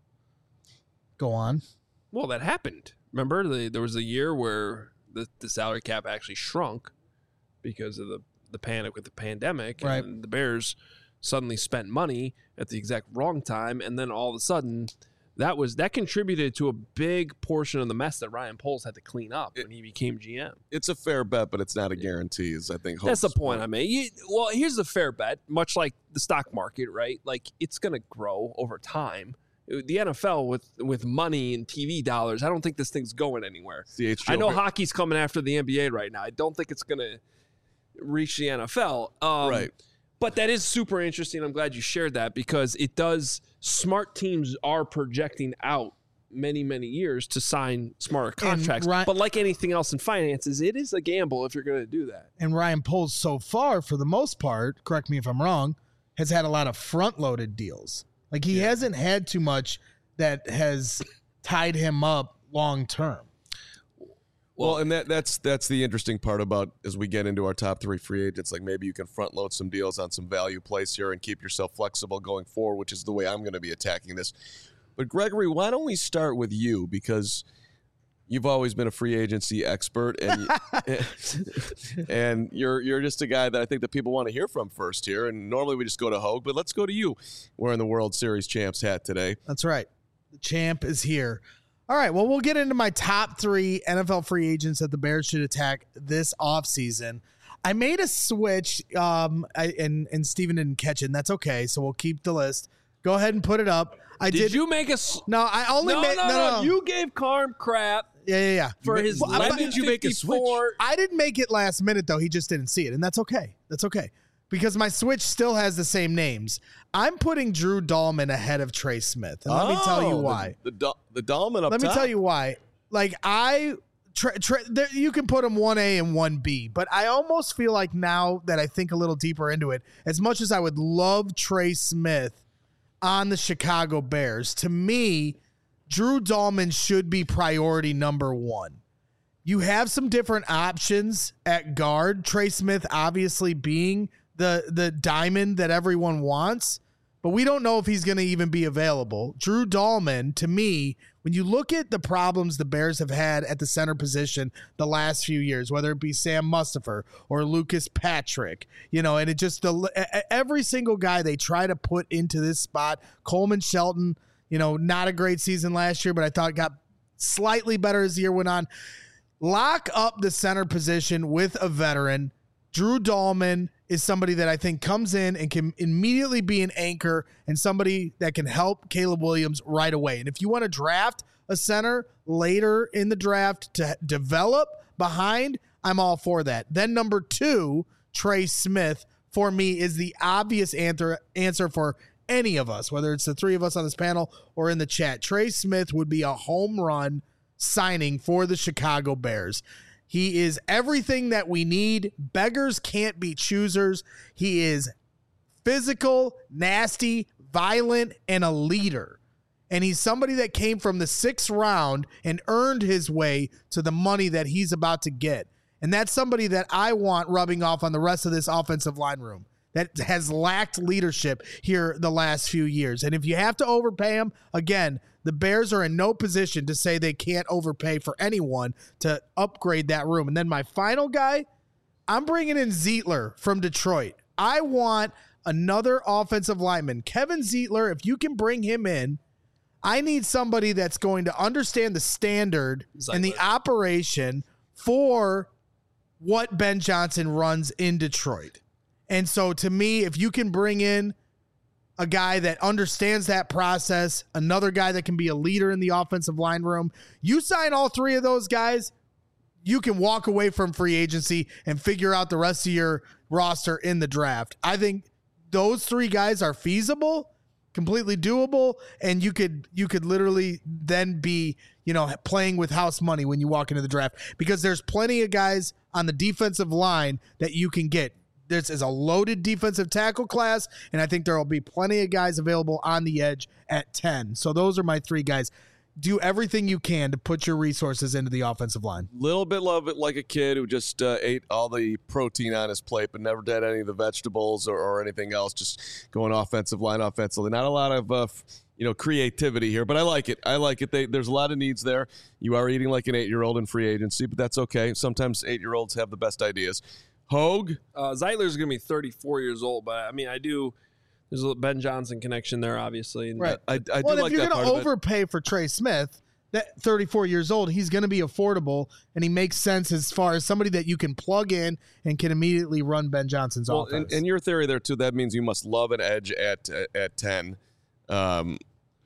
Go on. Well, that happened. Remember, the, there was a year where the, the salary cap actually shrunk because of the, the panic with the pandemic. Right. And the Bears suddenly spent money at the exact wrong time, and then all of a sudden that was that contributed to a big portion of the mess that Ryan Poles had to clean up when he became G M. it's a fair bet, but it's not a guarantee, is I think. That's the Hope's point I made. You, well, here's the fair bet, much like the stock market, right? Like, it's going to grow over time. The N F L with with money and T V dollars, I don't think this thing's going anywhere. C H G O. I know hockey's coming after the N B A right now. I don't think it's going to reach the N F L. Um, Right. But that is super interesting. I'm glad you shared that because it does. Smart teams are projecting out many, many years to sign smarter contracts. Ryan- but like anything else in finances, it is a gamble if you're going to do that. And Ryan Poles, so far, for the most part, correct me if I'm wrong, has had a lot of front-loaded deals. Like, he hasn't had too much that has tied him up long-term. Well, and that that's that's the interesting part about as we get into our top three free agents. Like, maybe you can front load some deals on some value plays here and keep yourself flexible going forward, which is the way I'm going to be attacking this. But Gregory, why don't we start with you, because you've always been a free agency expert, and and you're you're just a guy that I think that people want to hear from first here. And normally we just go to Hogue, but let's go to you wearing the World Series champs hat today. That's right. The champ is here. All right, well, we'll get into my top three N F L free agents that the Bears should attack this offseason. I made a switch, um, I, and, and Steven didn't catch it, and that's okay, so we'll keep the list. Go ahead and put it up. I Did, did. you make a? s- No, I only No, made. no, no, You gave Carm crap yeah, yeah, yeah. for ma- his. when eleven did you make a switch? fifty-four I didn't make it last minute, though. He just didn't see it, and that's okay. That's okay. Because my switch still has the same names. I'm putting Drew Dahlman ahead of Trey Smith, and let me tell you Oh, why. The the, Dal- the Dolman up Let me top. tell you why. Like, I, Trey, Trey, there, you can put him one A and one B, but I almost feel like now that I think a little deeper into it, as much as I would love Trey Smith on the Chicago Bears, to me, Drew Dahlman should be priority number one. You have some different options at guard. Trey Smith obviously being the the diamond that everyone wants, but we don't know if he's going to even be available. Drew Dahlman, to me, when you look at the problems the Bears have had at the center position the last few years, whether it be Sam Mustipher or Lucas Patrick, you know, and it just the every single guy they try to put into this spot, Coleman Shelton, you know, not a great season last year, but I thought got slightly better as the year went on. Lock up the center position with a veteran. Drew Dahlman is somebody that I think comes in and can immediately be an anchor and somebody that can help Caleb Williams right away. And if you want to draft a center later in the draft to develop behind, I'm all for that. Then number two, Trey Smith, for me, is the obvious answer, answer for any of us, whether it's the three of us on this panel or in the chat. Trey Smith would be a home run signing for the Chicago Bears. He is everything that we need. Beggars can't be choosers. He is physical, nasty, violent, and a leader. And he's somebody that came from the sixth round and earned his way to the money that he's about to get. And that's somebody that I want rubbing off on the rest of this offensive line room that has lacked leadership here the last few years. And if you have to overpay him, again, the Bears are in no position to say they can't overpay for anyone to upgrade that room. And then my final guy, I'm bringing in Zeitler from Detroit. I want another offensive lineman. Kevin Zeitler, if you can bring him in, I need somebody that's going to understand the standard Zeitler. and the operation for what Ben Johnson runs in Detroit. And so to me, if you can bring in a guy that understands that process, another guy that can be a leader in the offensive line room, you sign all three of those guys, you can walk away from free agency and figure out the rest of your roster in the draft. I think those three guys are feasible, completely doable, and you could you could literally then be, you know, playing with house money when you walk into the draft, because there's plenty of guys on the defensive line that you can get. This is a loaded defensive tackle class, and I think there will be plenty of guys available on the edge at ten. So those are my three guys. Do everything you can to put your resources into the offensive line. Little bit love it like a kid who just uh, ate all the protein on his plate but never did any of the vegetables or, or anything else, just going offensive line offensively. Not a lot of uh, you know creativity here, but I like it. I like it. They, there's a lot of needs there. You are eating like an eight-year-old in free agency, but that's okay. Sometimes eight-year-olds have the best ideas. Hogue? Uh, Zeitler's going to be thirty-four years old, but I mean, I do – there's a Ben Johnson connection there, obviously. And right. I, I well, do if like you're that going part to overpay for Trey Smith, that thirty-four years old, he's going to be affordable, and he makes sense as far as somebody that you can plug in and can immediately run Ben Johnson's well, offense. And, and your theory there, too, that means you must love an edge at at ten, um,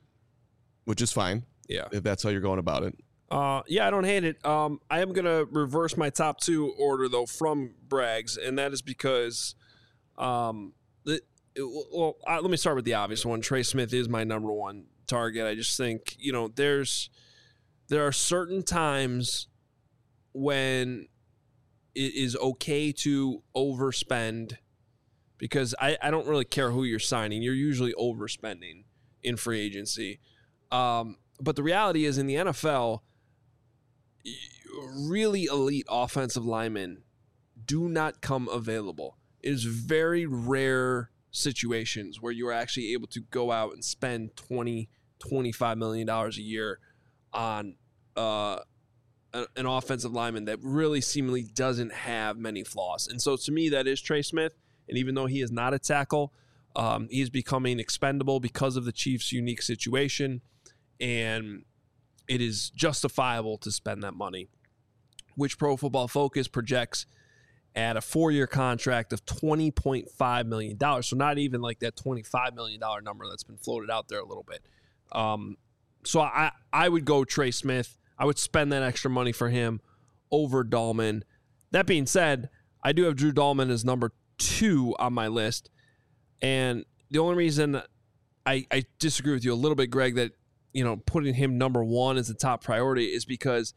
which is fine. Yeah. If that's how you're going about it. Uh, yeah, I don't hate it. Um, I am going to reverse my top two order, though, from Bragg's, and that is because um, the, it, well, I, let me start with the obvious one. Trey Smith is my number one target. I just think, you know, there's there are certain times when it is okay to overspend, because I, I don't really care who you're signing. You're usually overspending in free agency. Um, but the reality is, in the N F L, really elite offensive linemen do not come available. It is very rare situations where you are actually able to go out and spend twenty, twenty-five million dollars a year on uh, an offensive lineman that really seemingly doesn't have many flaws. And so to me, that is Trey Smith. And even though he is not a tackle, um, he is becoming expendable because of the Chiefs' unique situation. And it is justifiable to spend that money, which Pro Football Focus projects at a four-year contract of twenty point five million dollars. So not even like that twenty-five million dollars number that's been floated out there a little bit. Um, so I, I would go Trey Smith. I would spend that extra money for him over Dahlman. That being said, I do have Drew Dahlman as number two on my list. And the only reason I, I disagree with you a little bit, Greg, that you know, putting him number one as the top priority is because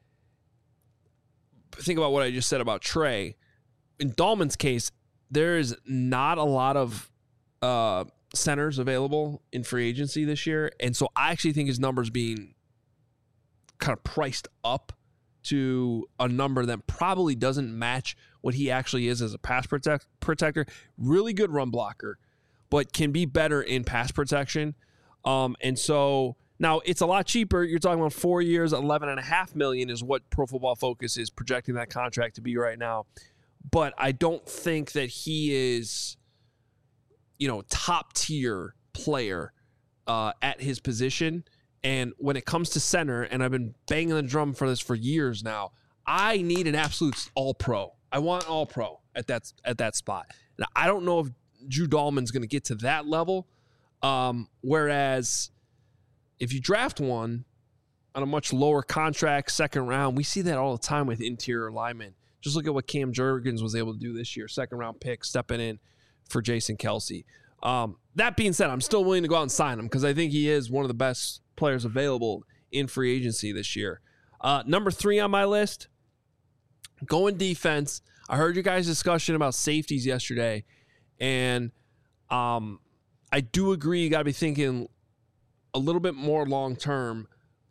think about what I just said about Trey. In Dahlman's case, there is not a lot of uh, centers available in free agency this year. And so I actually think his numbers being kind of priced up to a number that probably doesn't match what he actually is as a pass protect- protector. Really good run blocker, but can be better in pass protection. Um, and so now it's a lot cheaper. You're talking about four years, eleven and a half million is what Pro Football Focus is projecting that contract to be right now. But I don't think that he is, you know, top tier player uh, at his position. And when it comes to center, and I've been banging the drum for this for years now, I need an absolute all pro I want all pro at that at that spot. Now, I don't know if Drew Dahlman's going to get to that level. Um, whereas if you draft one on a much lower contract, second round, we see that all the time with interior linemen. Just look at what Cam Jurgens was able to do this year, second round pick, stepping in for Jason Kelce. Um, that being said, I'm still willing to go out and sign him because I think he is one of the best players available in free agency this year. Uh, number three on my list, going defense. I heard you guys' discussion about safeties yesterday, and um, I do agree you got to be thinking a little bit more long term.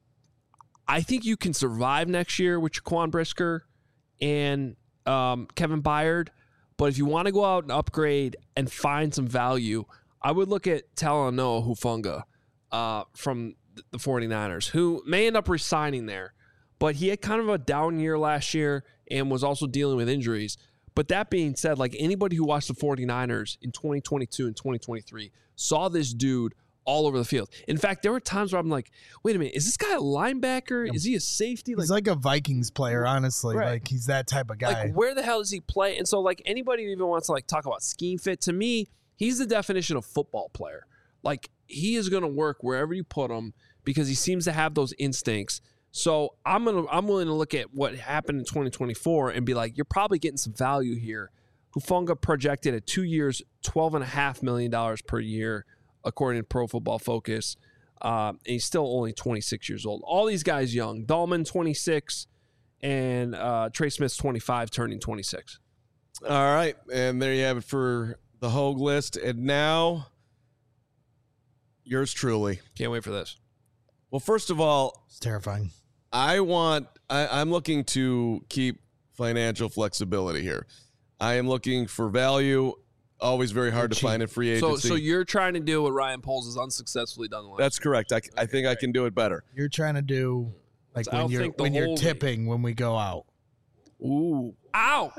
I think you can survive next year with Jaquan Brisker and um, Kevin Byard. But if you want to go out and upgrade and find some value, I would look at Talanoa Hufanga uh, from the 49ers, who may end up resigning there. But he had kind of a down year last year and was also dealing with injuries. But that being said, like anybody who watched the 49ers in twenty twenty-two and twenty twenty-three saw this dude all over the field. In fact, there were times where I'm like, wait a minute, is this guy a linebacker? Is he a safety? He's like, like a Vikings player, honestly. Right. Like he's that type of guy. Like where the hell does he play? And so like anybody who even wants to like talk about scheme fit, to me, he's the definition of football player. Like he is going to work wherever you put him because he seems to have those instincts. So I'm gonna I'm willing to look at what happened in twenty twenty-four and be like, you're probably getting some value here. Hufanga projected at two years, twelve and a half million dollars per year, according to Pro Football Focus. Um, and he's still only twenty-six years old. All these guys young. Dahlman, twenty-six, and uh, Trey Smith's twenty-five, turning twenty-six. All right, and there you have it for the Hogue list. And now, yours truly. Can't wait for this. Well, first of all, It's terrifying. I want, I, I'm looking to keep financial flexibility here. I am looking for value. Always very hard You're to cheap. find in free So, agency. so you're trying to do what Ryan Poles has unsuccessfully done. The last That's correct. I, I think I can do it better. You're trying to do like I when don't you're think the when you're whole- tipping when we go out. Ooh. Ow.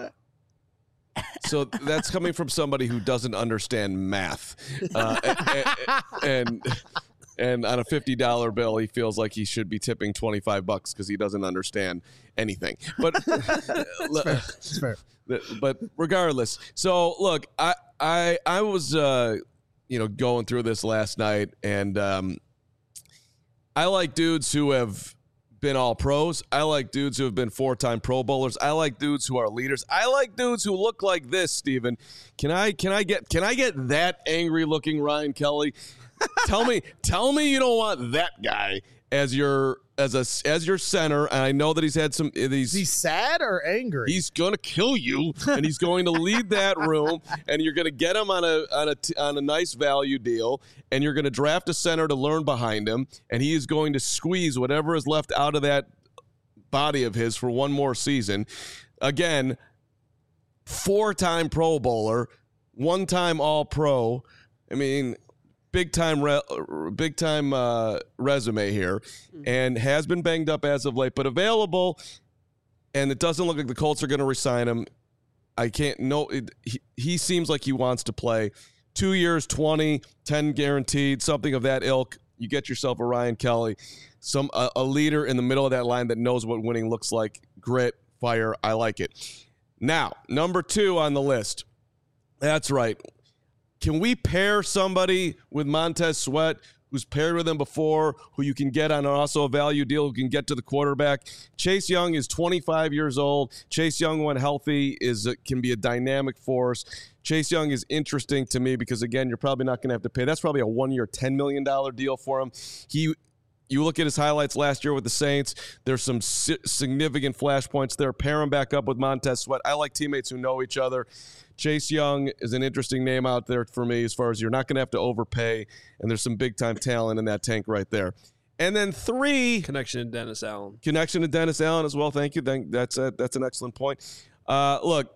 So that's coming from somebody who doesn't understand math. Uh, and, and and on a fifty dollar bill, he feels like he should be tipping twenty-five bucks because he doesn't understand anything. But It's fair. but regardless, so look, I I I was uh, you know going through this last night, and um, I like dudes who have been all pros. I like dudes who have been four-time Pro Bowlers. I like dudes who are leaders. I like dudes who look like this, Steven. Can I can I get can I get that angry looking Ryan Kelly? tell me tell me you don't want that guy as your as a as your center. And I know that he's had some these Is he sad or angry? He's gonna kill you, and he's going to lead that room, and you're gonna get him on a on a on a nice value deal, and you're gonna draft a center to learn behind him, and he is going to squeeze whatever is left out of that body of his for one more season. Again, four-time Pro Bowler, one-time All-Pro. I mean, big time, re- big time uh, resume here, and has been banged up as of late, but available. And it doesn't look like the Colts are going to resign him. I can't know. He, he seems like he wants to play. Two years, twenty, ten guaranteed, something of that ilk. You get yourself a Ryan Kelly, some a, a leader in the middle of that line that knows what winning looks like. Grit, fire. I like it. Now, number two on the list. That's right. Can we pair somebody with Montez Sweat, who's paired with him before, who you can get on also a value deal, who can get to the quarterback? Chase Young is twenty-five years old. Chase Young, when healthy, is a, can be a dynamic force. Chase Young is interesting to me because, again, you're probably not going to have to pay. That's probably a one-year, ten million dollars deal for him. He, you look at his highlights last year with the Saints, there's some si- significant flashpoints there. Pair him back up with Montez Sweat. I like teammates who know each other. Chase Young is an interesting name out there for me as far as you're not going to have to overpay, and there's some big-time talent in that tank right there. And then three. Connection to Dennis Allen. Connection to Dennis Allen as well. Thank you. That's a, that's an excellent point. Uh, look,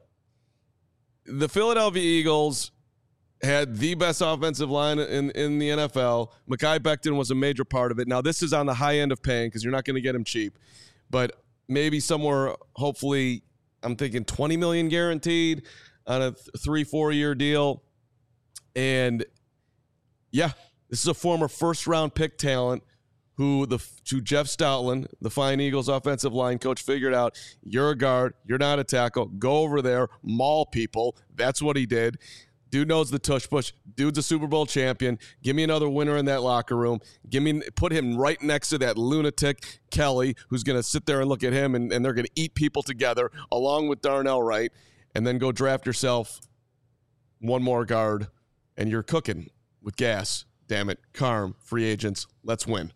the Philadelphia Eagles had the best offensive line in, in the N F L. Mekhi Becton was a major part of it. Now, this is on the high end of paying because you're not going to get him cheap. But maybe somewhere, hopefully, I'm thinking twenty million dollars guaranteed on a th- three, four-year deal. And, yeah, this is a former first-round pick talent who the to Jeff Stoutland, the Flying Eagles offensive line coach, figured out you're a guard, you're not a tackle. Go over there, maul people. That's what he did. Dude knows the tush push. Dude's a Super Bowl champion. Give me another winner in that locker room. Give me put him right next to that lunatic Kelly, who's going to sit there and look at him, and, and they're going to eat people together along with Darnell Wright, and then go draft yourself one more guard, and you're cooking with gas. Damn it, Carm, free agents, let's win.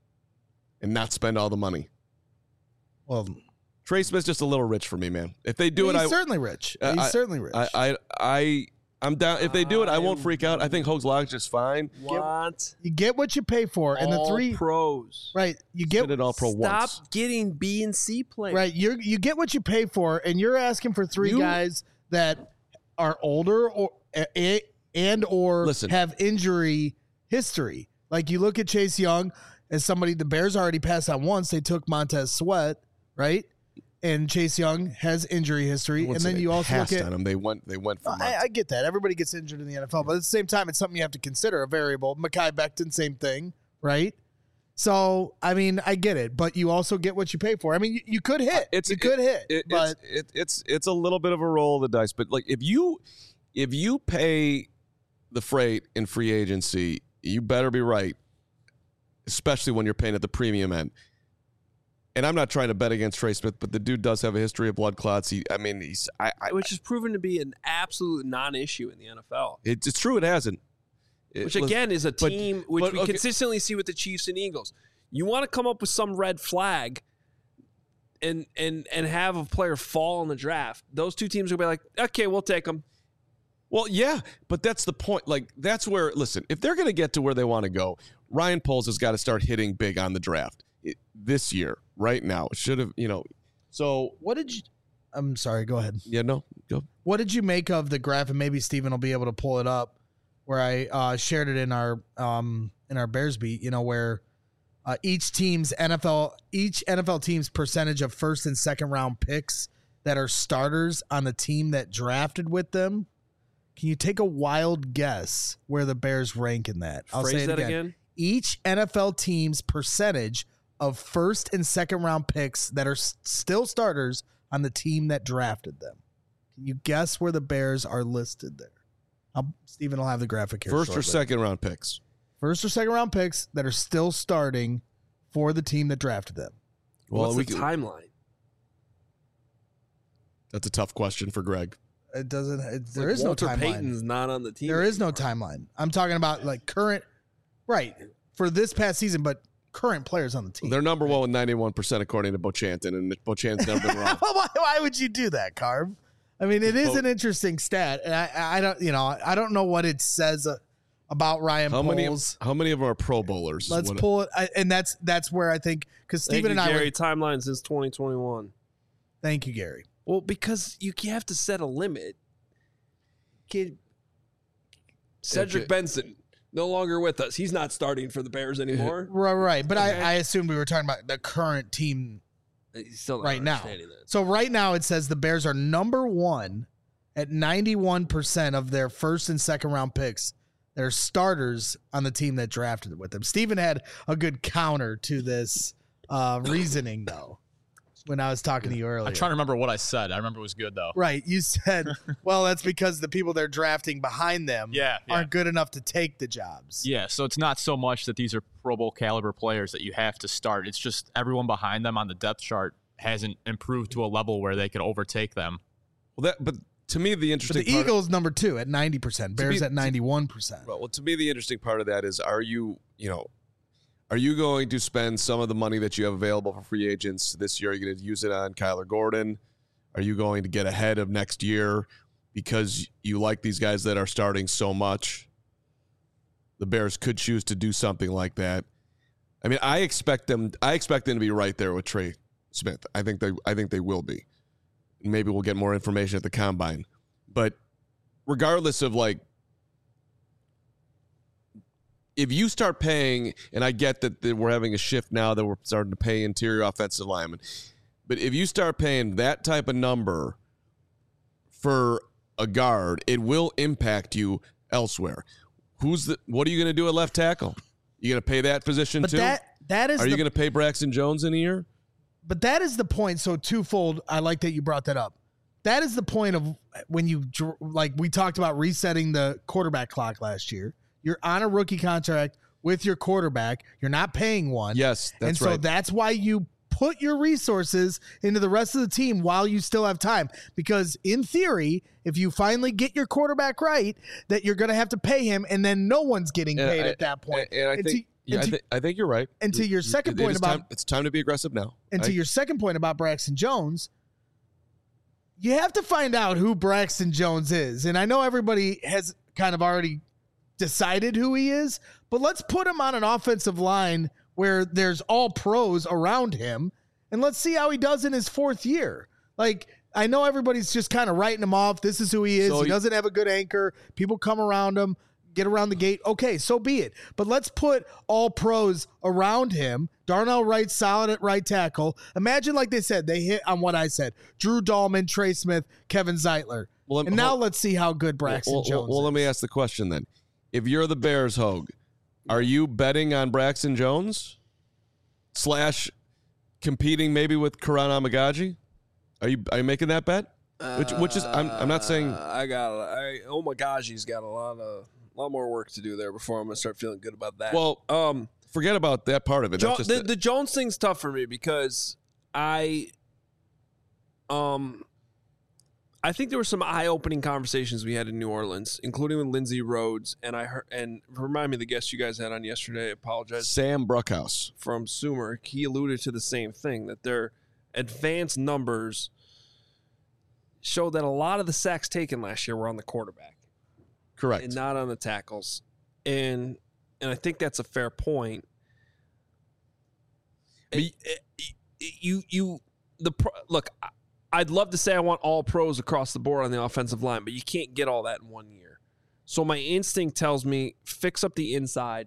And not spend all the money. Well, Trey Smith's just a little rich for me, man. If they do he's it, I certainly rich. Uh, He's I, certainly rich. I, I, I, I'm down. If they do it, I won't freak out. I think Hoag's Lodge is fine. Want you get what you pay for, and the all three pros. right. You Get get it all pro Stop once. getting B and C players. right. You you get what you pay for, and you're asking for three You- guys that are older or a, and or Listen. have injury history. Like you look at Chase Young as somebody the Bears already passed on once. They took Montez Sweat, right? And Chase Young has injury history, I and wouldn't say then they you also look passed at on him. They went. They went for. I, I get that. Everybody gets injured in the N F L, but at the same time, it's something you have to consider, a variable. Mekhi Becton, same thing, right? So, I mean, I get it, but you also get what you pay for. I mean, you, you could hit. It's you could hit, It, but it's, it, it's it's a little bit of a roll of the dice. But like if you if you pay the freight in free agency, you better be right, especially when you're paying at the premium end. And I'm not trying to bet against Trey Smith, but the dude does have a history of blood clots. He, I mean, he's I, I Which is proven to be an absolute non-issue in the N F L. it, it's true it hasn't. It- Which again is a but- team which but, we okay. consistently see with the Chiefs and Eagles. You want to come up with some red flag and and and have a player fall in the draft. Those two teams will be like, okay, we'll take them. Well, yeah, but that's the point. Like, that's where, listen, if they're going to get to where they want to go, Ryan Poles has got to start hitting big on the draft it, this year, right now. Should have, you know. So, what did you I'm sorry, go ahead. yeah, no, go. What did you make of the graph? And maybe Steven will be able to pull it up where I uh, shared it in our um, in our Bears beat, you know, where uh, each team's N F L each N F L team's percentage of first and second round picks that are starters on the team that drafted with them. Can you take a wild guess where the Bears rank in that? I'll Phrase say it that again. again. Each N F L team's percentage of first and second round picks that are s- still starters on the team that drafted them. Can you guess where the Bears are listed there? I'll, Steven will have the graphic here. First or shortly. second round picks. First or second round picks that are still starting for the team that drafted them. Well, What's we the can- timeline? That's a tough question for Greg. It doesn't. It, there Like is Walter no timeline. Payton's not on the team. There is no anymore. timeline. I'm talking about like current, right, for this past season, but current players on the team. They're number one with ninety-one percent according to Bochanton, and Bochan's never been wrong. why, why would you do that, Carb? I mean, it is Well- an interesting stat, and I, I don't, you know, I don't know what it says uh, about Ryan How many, Poles. how many of them are Pro Bowlers? Let's What- pull it, I, and that's that's where I think because Thank Steven you, and I. Gary. Were, Timeline since twenty twenty-one. thank you, Gary. Well, because you have to set a limit. Kid, Cedric Okay. Benson no longer with us. He's not starting for the Bears anymore. Right, right. But Okay. I, I assumed we were talking about the current team He's still not right now. understanding that. So right now it says the Bears are number one at ninety-one percent of their first and second round picks. They're starters on the team that drafted with them. Steven had a good counter to this uh, reasoning, though, when I was talking to you earlier. I'm trying to remember what I said. I remember it was good though. Right. You said, well, that's because the people they're drafting behind them Yeah, yeah. aren't good enough to take the jobs. Yeah, so it's not so much that these are Pro Bowl caliber players that you have to start. It's just everyone behind them on the depth chart hasn't improved to a level where they could overtake them. Well, that, but to me, the But interesting the part, Eagles number two at ninety percent. Bears be- at ninety-one percent. Well, to me, the interesting part of that is, are you, you know, are you going to spend some of the money that you have available for free agents this year? Are you going to use it on Kyler Gordon? Are you going to get ahead of next year because you like these guys that are starting so much? The Bears could choose to do something like that. I mean, I expect them. I expect them to be right there with Trey Smith. I think they. I think they will be. Maybe we'll get more information at the combine, but regardless of like. If you start paying, and I get that, that we're having a shift now that we're starting to pay interior offensive linemen, but if you start paying that type of number for a guard, it will impact you elsewhere. Who's the? What are you going to do at left tackle? You going to pay that position But too? that that is Are the, you going to pay Braxton Jones in a year? But that is the point. So twofold. I like that you brought that up. That is the point of when you, like we talked about resetting the quarterback clock last year. You're on a rookie contract with your quarterback. You're not paying one. Yes, that's and so right. that's why you put your resources into the rest of the team while you still have time. Because in theory, if you finally get your quarterback right, that you're going to have to pay him, and then no one's getting And paid I- at that point. And, and I And think, to- yeah, and I, to- th- I think you're right. and to your second It- it point is about time, it's time to be aggressive now. And I- to your second point about Braxton Jones, you have to find out who Braxton Jones is. And I know everybody has kind of already decided who he is, but let's put him on an offensive line where there's all pros around him, and let's see how he does in his fourth year. Like, I know everybody's just kind of writing him off. This is who he is. So he you- doesn't have a good anchor. People come around him, get around the gate. Okay, so be it. But let's put all pros around him. Darnell Wright, solid at right tackle. Imagine, like they said, they hit on what I said. Drew Dahlman, Trey Smith, Kevin Zeitler. Well, let- and now hold- let's see how good Braxton well, well, Jones well, is. let me ask the question then. If you're the Bears, Hogue, are you betting on Braxton Jones slash competing maybe with Karan Amagaji? Are you are you making that bet? Which which is I'm I'm not saying Uh, I got. I oh my gosh, he's got a lot of a lot more work to do there before I'm gonna start feeling good about that. well. um, Forget about that part of it. Jo- That's just the, it. the Jones thing's tough for me because I, um, I think there were some eye-opening conversations we had in New Orleans, including with Lindsey Rhodes, and I heard. And remind me, the guest you guys had on yesterday. I apologize. Sam Bruckhouse. From Sumer, he alluded to the same thing, that their advanced numbers show that a lot of the sacks taken last year were on the quarterback Correct. and not on the tackles. And and I think that's a fair point. And you you the pro, look, I- I'd love to say I want all pros across the board on the offensive line, but you can't get all that in one year. So my instinct tells me fix up the inside.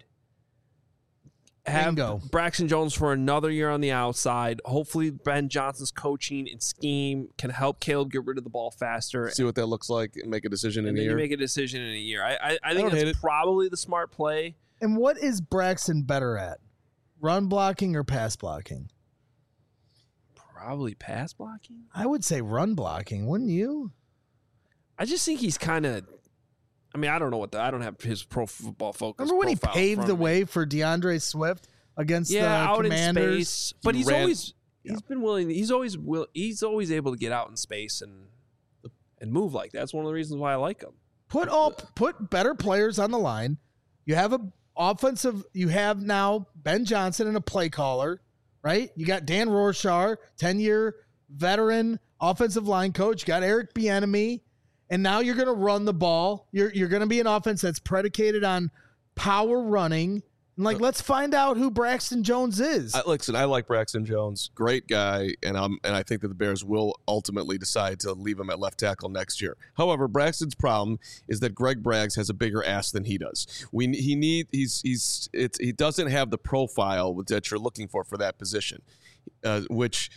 Have Bingo. Braxton Jones for another year on the outside. Hopefully Ben Johnson's coaching and scheme can help Caleb get rid of the ball faster. See what that looks like and make a decision in and a then you year. make a decision in a year. I I, I think don't hate that's it. probably the smart play. And what is Braxton better at? Run blocking or pass blocking? Probably pass blocking. I would say run blocking, wouldn't you? I just think he's kind of. I mean, I don't know what the. I don't have his pro football focus. Remember when he profile in paved front the of me. way for DeAndre Swift against Yeah, the out Commanders? in space, but He he's ran- always he's been willing. He's always will. He's always able to get out in space and and move like that. That's one of the reasons why I like him. Put all put better players on the line. You have a offensive. You have now Ben Johnson and a play caller, right? You got Dan Rorschach, ten year veteran offensive line coach. You got Eric Bieniemy, and now you're going to run the ball. You're you're going to be an offense that's predicated on power running. And like, let's find out who Braxton Jones is. I, listen, I like Braxton Jones, great guy, and um, and I think that the Bears will ultimately decide to leave him at left tackle next year. However, Braxton's problem is that Greg Braggs has a bigger ass than he does. We he need he's he's it's he doesn't have the profile that you're looking for for that position, uh, which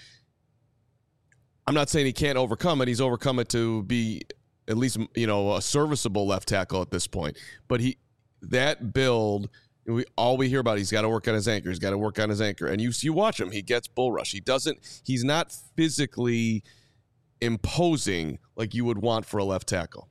I'm not saying he can't overcome it. He's overcome it to be at least you know a serviceable left tackle at this point. But he that build. We all we hear about he's got to work on his anchor. He's got to work on his anchor. And you you watch him, he gets bull rush. He doesn't. He's not physically imposing like you would want for a left tackle.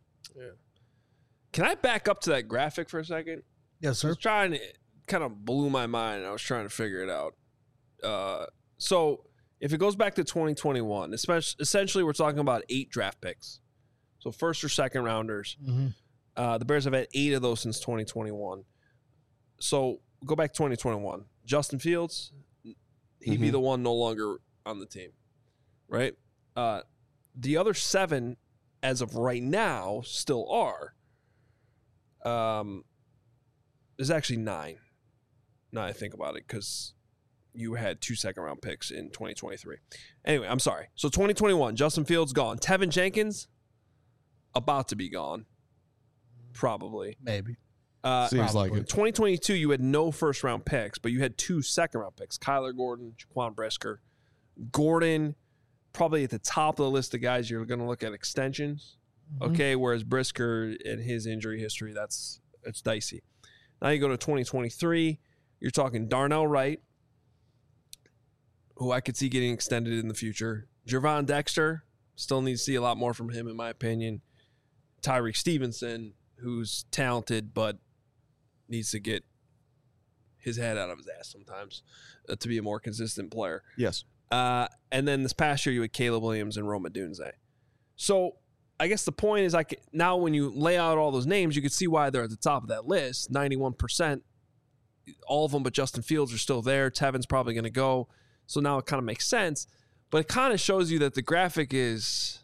Can I back up to that graphic for a second? yes, I sir. was trying to kind of blew my mind. I was trying to figure it out. Uh, so if it goes back to twenty twenty-one, especially essentially we're talking about eight draft picks. So first or second rounders. Mhm. Uh, the Bears have had eight of those since twenty twenty-one. So go back to twenty twenty-one. Justin Fields, he'd be Mhm. the one no longer on the team, right? Uh, the other seven, as of right now, still are. Um, there's actually nine. Now I think about it, because you had two second round picks in twenty twenty-three. Anyway, I'm sorry. So twenty twenty-one, Justin Fields gone. Tevin Jenkins about to be gone, probably. Maybe. Uh, Seems like probably. it. twenty twenty-two, you had no first round picks, but you had two second round picks: Kyler Gordon, Jaquan Brisker. Gordon, probably at the top of the list of guys you're going to look at extensions. Mhm. Okay, whereas Brisker and his injury history, that's it's dicey. Now you go to twenty twenty-three, you're talking Darnell Wright, who I could see getting extended in the future. Gervon Dexter, still need to see a lot more from him, in my opinion. Tyreek Stevenson, who's talented but needs to get his head out of his ass sometimes uh, to be a more consistent player. Yes. Uh, and then this past year, you had Caleb Williams and Rome Odunze. So I guess the point is, I can, now when you lay out all those names, you can see why they're at the top of that list. ninety-one percent, all of them but Justin Fields are still there. Tevin's probably going to go. So now it kind of makes sense. But it kind of shows you that the graphic is...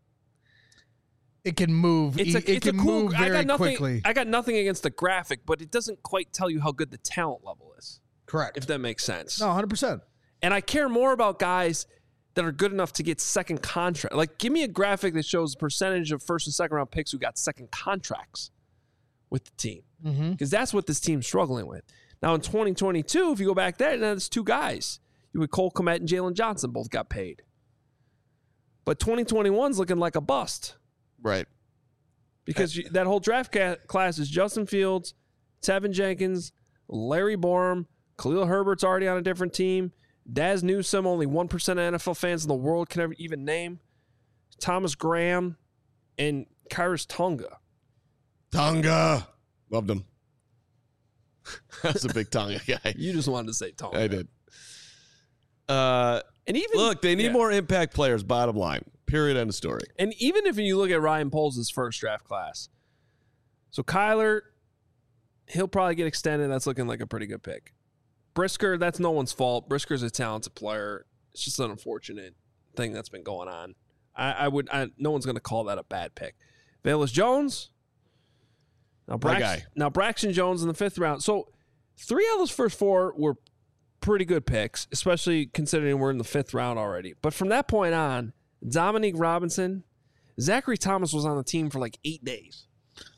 It can move. It's a, it it's can a cool, move I very got nothing, quickly. I got nothing against the graphic, but it doesn't quite tell you how good the talent level is, Correct. if that makes sense. No, one hundred percent. And I care more about guys that are good enough to get second contract. Like, give me a graphic that shows the percentage of first and second round picks who got second contracts with the team. Because Mm-hmm. that's what this team's struggling with. Now, in twenty twenty-two, if you go back there, now there's two guys. You had Cole Kmet and Jalen Johnson both got paid. But twenty twenty-one's looking like a bust. Right. Because you, that whole draft ca- class is Justin Fields, Tevin Jenkins, Larry Borum, Khalil Herbert's already on a different team, Daz Newsome, only one percent of N F L fans in the world can ever even name, Thomas Graham, and Kyrus Tonga. Tonga. Loved him. That's a big Tonga guy. You just wanted to say Tonga. I did. Uh, And even look, they need yeah. more impact players, bottom line. Period, end of story. And even if you look at Ryan Poles' first draft class, so Kyler, he'll probably get extended. That's looking like a pretty good pick. Brisker, that's no one's fault. Brisker's a talented player. It's just an unfortunate thing that's been going on. I, I would, I, no one's going to call that a bad pick. Velus Jones. Now, My Brax, guy. now Braxton Jones in the fifth round. So three out of those first four were pretty good picks, especially considering we're in the fifth round already. But from that point on, Dominique Robinson, Zachary Thomas was on the team for like eight days.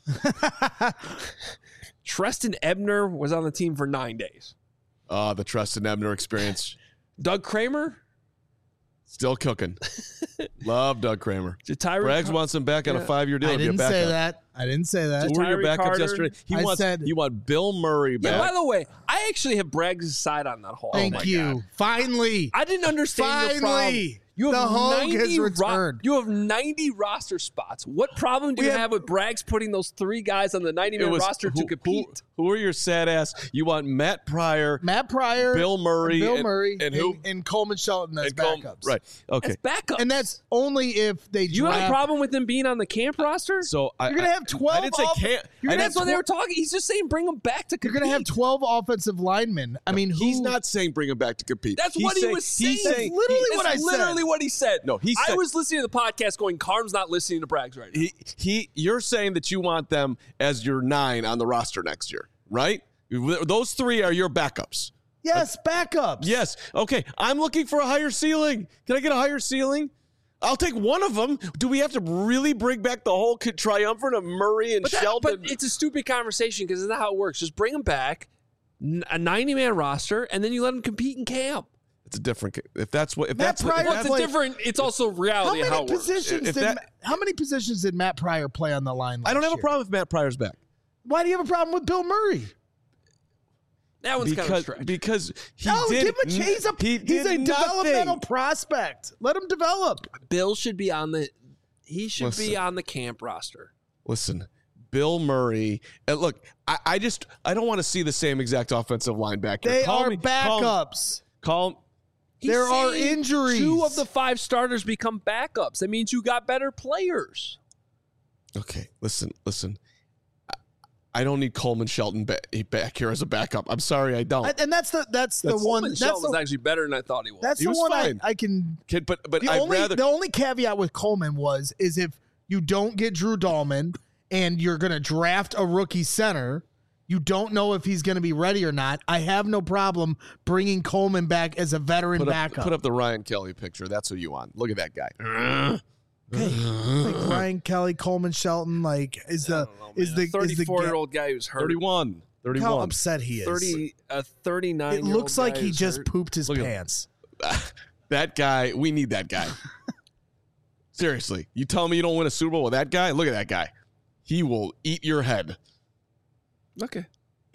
Treston Ebner was on the team for nine days. Oh, the Trustin Ebner experience. Doug Kramer, Still cooking. Love Doug Kramer. Jatiri Braggs Car- wants him back on Yeah. a five-year deal. I to be a didn't say backup. that. I didn't say that. Who were your Jatiri backups Carter. yesterday? He I wants said- he want Bill Murray Yeah, back. by the way, I actually have Braggs' side on that whole. Thank Oh my you. God. Finally. I didn't understand your problem. Finally. You have The Hogue ninety has ro- returned. you have ninety roster spots. What problem do We you have- have with Braggs putting those three guys on the ninety-man roster who, to compete? Who, who are your sad ass? You want Matt Pryor, Matt Pryor, Bill Murray, Bill and- Murray, and who? and Coleman Shelton as and Col- backups. Right. Okay. That's backup. And that's only if they you have a draft. problem with them being on the camp roster? So I, You're gonna I- have twelve I didn't say off- can't. you're I gonna didn't That's what they tw- were talking. He's just saying bring them back to You're compete. going to have twelve offensive linemen. I mean, who, He's not saying bring him back to compete. That's He's what he saying- was saying. He's saying literally he- what I That's said. literally what he said. No, he I said- was listening to the podcast going, Carm's not listening to Braggs right now. he he. You're saying that you want them as your nine on the roster next year, right? Those three are your backups. Yes, backups. Yes. Okay. I'm looking for a higher ceiling. Can I get a higher ceiling? I'll take one of them. Do we have to really bring back the whole triumvirate of Murray and But, that, Sheldon? but it's a stupid conversation because that's how it works. Just bring them back, n- a ninety-man roster, and then you let them compete in camp. It's a different. If that's what. If Matt that's what. Pryor If Well, that's, it's a played- different. It's also How reality many of how it works. positions If did that- Ma- How many positions did Matt Pryor play on the line? I don't last have a year? problem if Matt Pryor's back Why do you have a problem with Bill Murray? That one's kind of a because stretch. because he no, did. give him a chance. He's a, he he's did a nothing. developmental prospect. Let him develop. Bill should be on the. He should be Listen. on the camp roster. Listen, Bill Murray. And look, I, I just I don't want to see the same exact offensive line back here. They Call are me, call- backups. Call. He's There are saying injuries. Two of the five starters become backups. That means you got better players. Okay, listen, listen. I, I don't need Coleman Shelton back, back here as a backup. I'm sorry, I don't. I- and that's the that's the That's- one. Coleman That's Shelton was the, actually better than I thought he was. that's He the was one I, fine. I can. Kid, but but The I'd only rather. the only caveat with Coleman was is if you don't get Drew Dahlman and you're going to draft a rookie center, you don't know if he's going to be ready or not. I have no problem bringing Coleman back as a veteran Put up, backup. put up the Ryan Kelly picture. That's what you want. Look at that guy. like Ryan Kelly, Coleman Shelton, like is the is the is the thirty-four year ga- old guy who's hurt. thirty-one. Look thirty-one. how upset he is. thirty a thirty-nine. It looks like he just pooped his Look at him. pants. That guy, we need that guy. Seriously. You tell me you don't win a Super Bowl with that guy? Look at that guy. He will eat your head. Okay.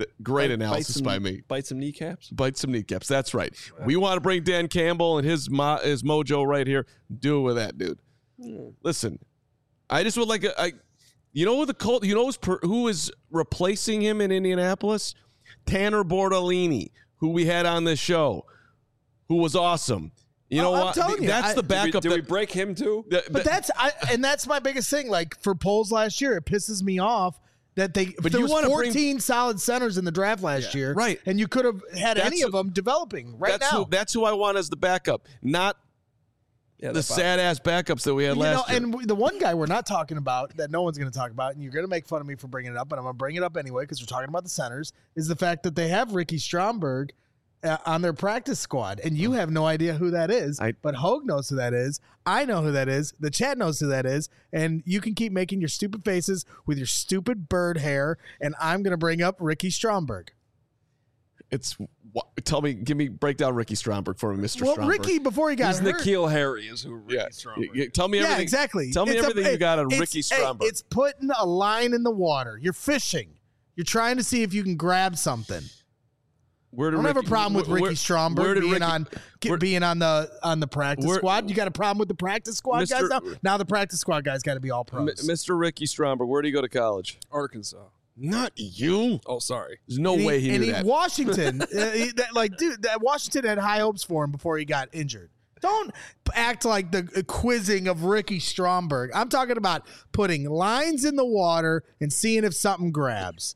Great Bite- analysis bite by some- me. Bite some kneecaps. Bite some kneecaps. That's right. We want to bring Dan Campbell and his mo- his mojo right here. Do it with that, dude. Mm. Listen, I just would like a, I, you know who the Colt, you know who's per, who is replacing him in Indianapolis? Tanner Bordolini, who we had on this show, who was awesome. You know Oh, I'm what? telling you, That's I- the Did Did, we, backup. did we that- break him too? that- But that- that's I, and that's my biggest thing. Like for polls last year, it pisses me off that they. But there you was wanna bring- fourteen solid centers in the draft last year, right. And you could have had That's any who- of them developing right that's now. who that's who I want as the backup, not Yeah, the that's fine. sad ass backups that we had You know, last year. and w- the one guy we're not talking about that no one's going to talk about, and you're going to make fun of me for bringing it up, but I'm going to bring it up anyway because we're talking about the centers, is the fact that they have Ricky Stromberg uh, on their practice squad, and you have no idea who that is. I- but Hogue knows who that is. I know who that is. The chat knows who that is, and you can keep making your stupid faces with your stupid bird hair, and I'm going to bring up Ricky Stromberg. It's wha- tell me, give me break down Ricky Stromberg for me, Mister Well, Stromberg. Ricky before he got He's hurt. Nikhil Harry is who Ricky yeah, Stromberg y- y- is. tell me Yeah, everything. exactly. Tell me It's a- everything you got on it's- Ricky hey, Stromberg. it's putting a line in the water. You're fishing. You're trying to see if you can grab something. Where I did don't have a Ricky- problem with where- Ricky where- Stromberg where did being Ricky- on get- where- being on the on the practice where- squad. You got a problem with the practice squad Mister guys now? Now the practice squad guys got to be all M- pros. Mister Ricky Stromberg, where did he go to college? Arkansas. Not you. Oh, sorry. There's no and way he and knew he, that. Washington, uh, he- that, like dude, that Washington had high hopes for him before he got injured. Don't act like the quizzing of Ricky Stromberg. I'm talking about putting lines in the water and seeing if something grabs.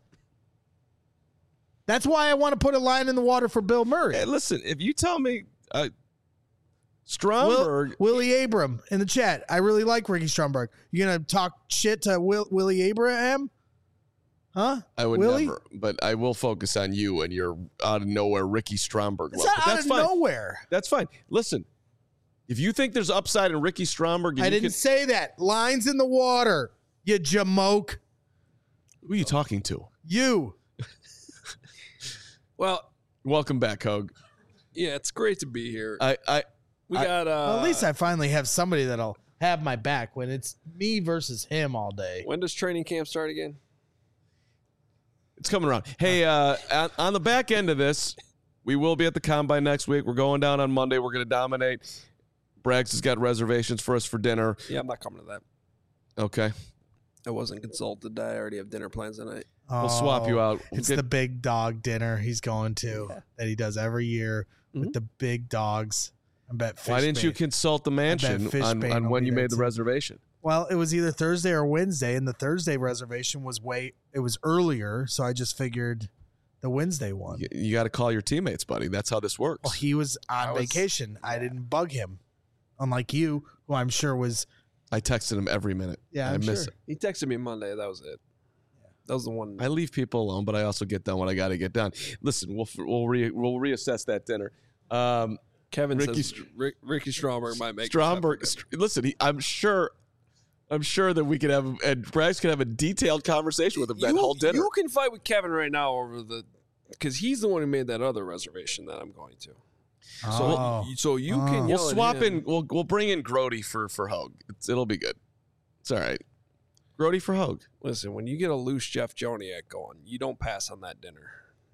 That's why I want to put a line in the water for Bill Murray. Hey, listen, if you tell me uh, Will, Stromberg, Willie Abram in the chat. I really like Ricky Stromberg. You gonna talk shit to Will, Willie Abraham? Huh? I would Willie? never, but I will focus on you and your out of nowhere Ricky Stromberg. It's love. not But out that's of fine. nowhere. That's fine. Listen, if you think there's upside in Ricky Stromberg, and I you didn't can- say that. Lines in the water. You jamoke. who are you talking to? You. Well, Welcome back, Hogue. yeah, it's great to be here. I, I, We I- got. Uh, Well, at least I finally have somebody that'll have my back when it's me versus him all day. When does training camp start again? it's coming around. Hey, uh, on, on the back end of this, we will be at the Combine next week. We're going down on Monday. We're going to dominate. Braggs has got reservations for us for dinner. Yeah, I'm not coming to that. Okay. I wasn't consulted. I already have dinner plans tonight. We'll swap you Oh, out. We'll It's get- the big dog dinner he's going to that he does every year with Mhm. the big dogs. I bet. Why didn't you Fishbane- consult the mansion Fishbane on, on will when be you there made the too. reservation? Well, it was either Thursday or Wednesday, and the Thursday reservation was way it was earlier, so I just figured the Wednesday one. You, you got to call your teammates, buddy. That's how this works. Well, he was on I was- vacation. I didn't bug him, unlike you, who I'm sure was. I texted him every minute. Yeah, I I'm miss sure. He texted me Monday. That was it. That was the one. I leave people alone, but I also get done what I got to get done. Listen, we'll we'll re, we'll reassess that dinner. Um, Kevin Ricky says Rick, Ricky Stromberg might make Stromberg, this happen. Str- listen, he, I'm sure, I'm sure that we could have, and Braggs could have a detailed conversation with him that you, whole dinner. You can fight with Kevin right now over the because he's the one who made that other reservation that I'm going to. So, Oh. so you Oh. can we'll yell at swap him. in. We'll we'll bring in Grody for for Hogue. It's, it'll be good. It's all right. Grody for Hogue. Listen, when you get a loose Jeff Joniak going, you don't pass on that dinner.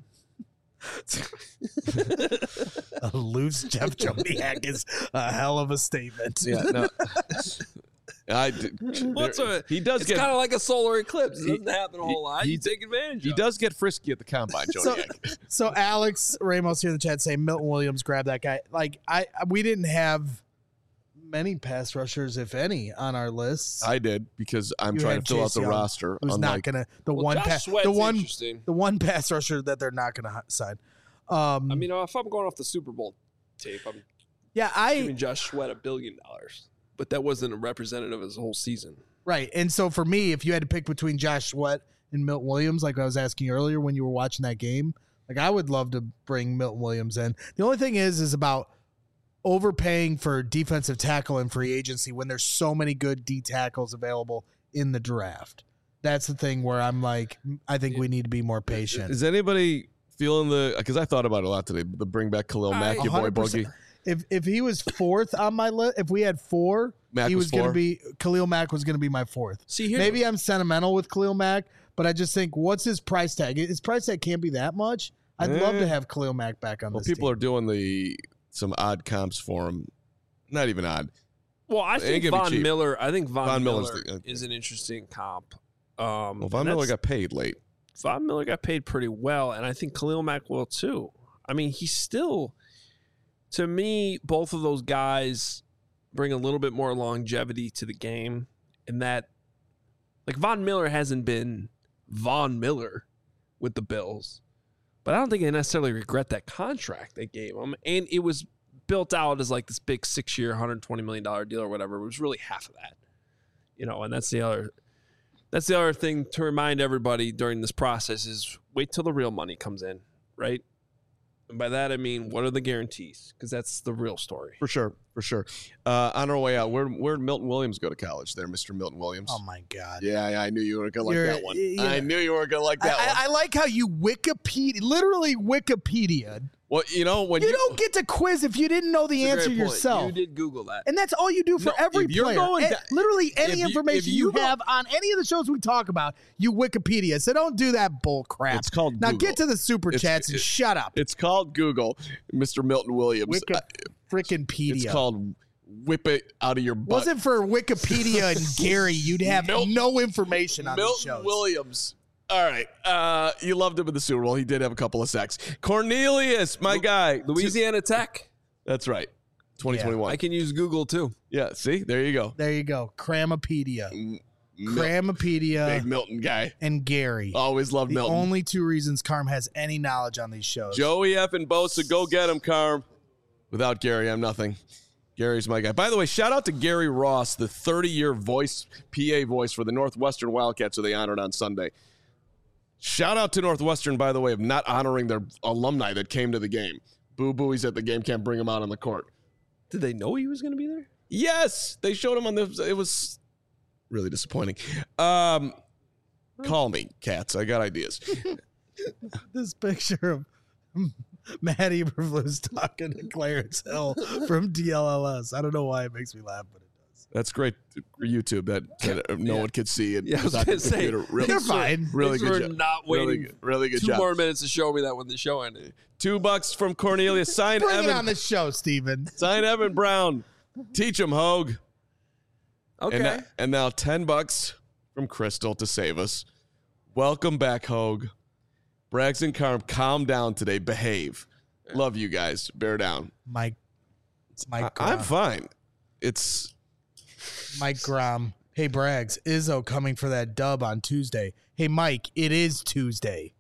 A loose Jeff Joniak is a hell of a statement. Yeah, no. I d- What's there- a- he does It's get kind of like a solar eclipse. It He- doesn't happen a he- whole lot. he- You take advantage he of it. does get frisky at the combine, So, Joniak. so Alex Ramos here in the chat saying Milton Williams grabbed that guy. Like I, we didn't have many pass rushers, if any, on our list. I did because I'm You trying had to fill out Chase the Young, roster. Who's not unlike- gonna the Well, one Josh pass Sweat's the one interesting. the one pass rusher that they're not gonna h- sign. Um, I mean, if I'm going off the Super Bowl tape, I'm yeah, I giving Josh Sweat a billion dollars. But that wasn't a representative of his whole season. right. And so for me, if you had to pick between Josh Sweat and Milton Williams, like I was asking you earlier when you were watching that game, like I would love to bring Milton Williams in. The only thing is, is about overpaying for defensive tackle and free agency when there's so many good D tackles available in the draft. That's the thing where I'm like, I think we need to be more patient. Is anybody feeling the? Because I thought about it a lot today. The bring back Khalil Mack, I- your boy one hundred percent. Boogie. If if he was fourth on my list, if we had four, Mack he was was going four? to be Khalil Mack was going to be my fourth. See here, Maybe I'm sentimental with Khalil Mack, but I just think, what's his price tag? His price tag can't be that much. I'd Eh. love to have Khalil Mack back on Well, this people team. are doing the some odd comps for him. Not even odd. Well, I It ain't think gonna be Von cheap. Miller. I think Von, Von Miller's Miller the- uh, is an interesting comp. Um, Well, Von and Miller that's- got paid late. Von Miller got paid pretty well, and I think Khalil Mack will too. I mean, he's still, to me, both of those guys bring a little bit more longevity to the game, in that, like, Von Miller hasn't been Von Miller with the Bills, but I don't think they necessarily regret that contract they gave him, and it was built out as like this big six-year, one hundred twenty million dollars deal or whatever. It was really half of that, you know, and that's the other. That's the other thing to remind everybody during this process is wait till the real money comes in, right? And by that, I mean, what are the guarantees? Because that's the real story. For sure, for sure. Uh, on our way out, where where did Milton Williams go to college? There, Mister Milton Williams. Oh my God! Yeah, yeah, I knew you were gonna like You're- that one. yeah. I knew you were gonna like I, that one. I, I like how you Wikipedia, literally Wikipedia. Well, you know when You, you, don't get to quiz if you didn't know the That's a answer great point. yourself. You did Google that. And that's all you do for No, every if you're player. going Eh, da- literally any if you- information if you, you go- have on any of the shows we talk about, you Wikipedia. So don't do that bull crap. It's called now Google. get to the super It's- chats and it- shut up. it's called Google, Mister Milton Williams. Wiki Uh, freaking pedia. it's called whip it out of your butt. Wasn't for Wikipedia and Gary, you'd have Milton- no information on these Milton shows. Williams. All right. Uh, you loved him in the Super Bowl. He did have a couple of sacks. Cornelius, my guy. Louisiana Tech. That's right. twenty twenty-one. I can use Google too. Yeah, see? There you go. There you go. Cramapedia. Mil- Cramapedia Big Milton guy. and Gary. Always loved the Milton. only two reasons Carm has any knowledge on these shows. Joey F. and Bosa, go get him, Carm. Without Gary, I'm nothing. Gary's my guy. By the way, shout out to Gary Ross, the thirty-year voice, P A voice for the Northwestern Wildcats, who they honored on Sunday. Shout out to Northwestern, by the way, of not honoring their alumni that came to the game. Boo boo, he's at the game, can't bring him out on the court. Did they know he was going to be there? Yes, they showed him on the. It was really disappointing. Um, call me, cats. I got ideas. This picture of Matt Eberflus talking to Clarence Hill from D L L S. I don't know why it makes me laugh, but it does. That's great for YouTube that, that no Yeah. one could see. And Yeah, I was without the going to say. computer. Really, They're fine. really Thanks good for job. not Really waiting good, really good two job. more minutes to show me that when the show ended. Two bucks from Cornelius. Sign Bring it Evan. on the show, Steven. Sign Evan Brown. Teach him, Hogue. Okay. And, now- and now ten bucks from Crystal to save us. Welcome back, Hogue. Braggs and Carm, calm down today. Behave. Love you guys. Bear down. Mike. Mike. I, I'm Grom. fine. It's Mike Grom. Hey, Braggs. Izzo coming for that dub on Tuesday. Hey, Mike. It is Tuesday.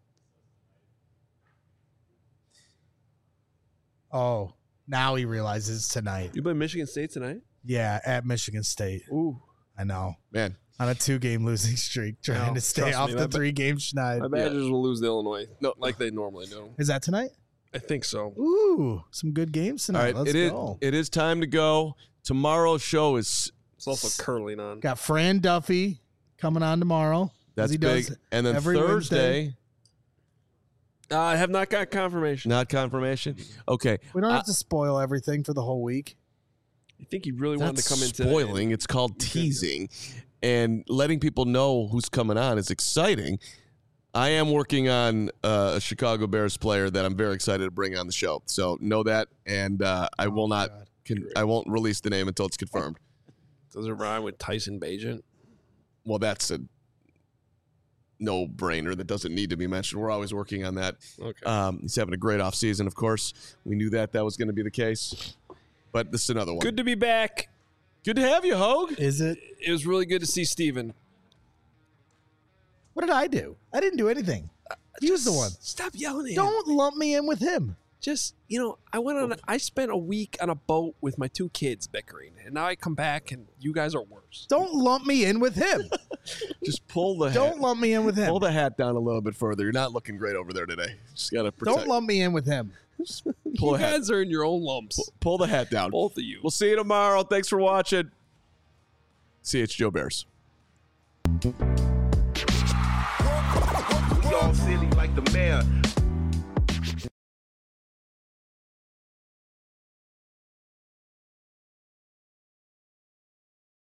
Oh, now he realizes tonight. You play Michigan State tonight? Yeah, at Michigan State. Ooh. I know. man. On a two-game losing streak, trying No, to stay trust off me, the my ba- three-game schneid. My Badgers will lose to Illinois. No. Like they normally do. Is that tonight? I think so. Ooh, some good games All tonight. right. Let's It is. go. It is time to go. Tomorrow's show is It's also curling on. Got Fran Duffy coming on tomorrow. as that's he big. does And then every Thursday, Wednesday. Uh, I have not got confirmation. not confirmation. Okay. We don't I- have to spoil everything for the whole week. I think he really wanted That's to come in today. spoiling. It's called teasing, and letting people know who's coming on is exciting. I am working on uh, a Chicago Bears player that I'm very excited to bring on the show. So know that, and uh, I will not. God. Con- I won't release the name until it's confirmed. Does it rhyme with Tyson Bagent? Well, that's a no-brainer that doesn't need to be mentioned. We're always working on that. Okay. Um, he's having a great offseason, of course. We knew that that was going to be the case, but this is another one. Good to be back. Good to have you, Hogue. Is it? It was really good to see Steven. What did I do? I didn't do anything. He was the one. Stop yelling at him. Don't lump me in with him. Just, you know, I went on, a, I spent a week on a boat with my two kids bickering, and now I come back and you guys are worse. Don't lump me in with him. Just pull the Don't hat. lump me in with him. Pull the hat down a little bit further. You're not looking great over there today. Just gotta protect. Don't lump me in with him. Pull You the hat. guys are in your own lumps. Pull the hat down. Both of you. We'll see you tomorrow. Thanks for watching. C H Joe Bears. We all silly like the mayor.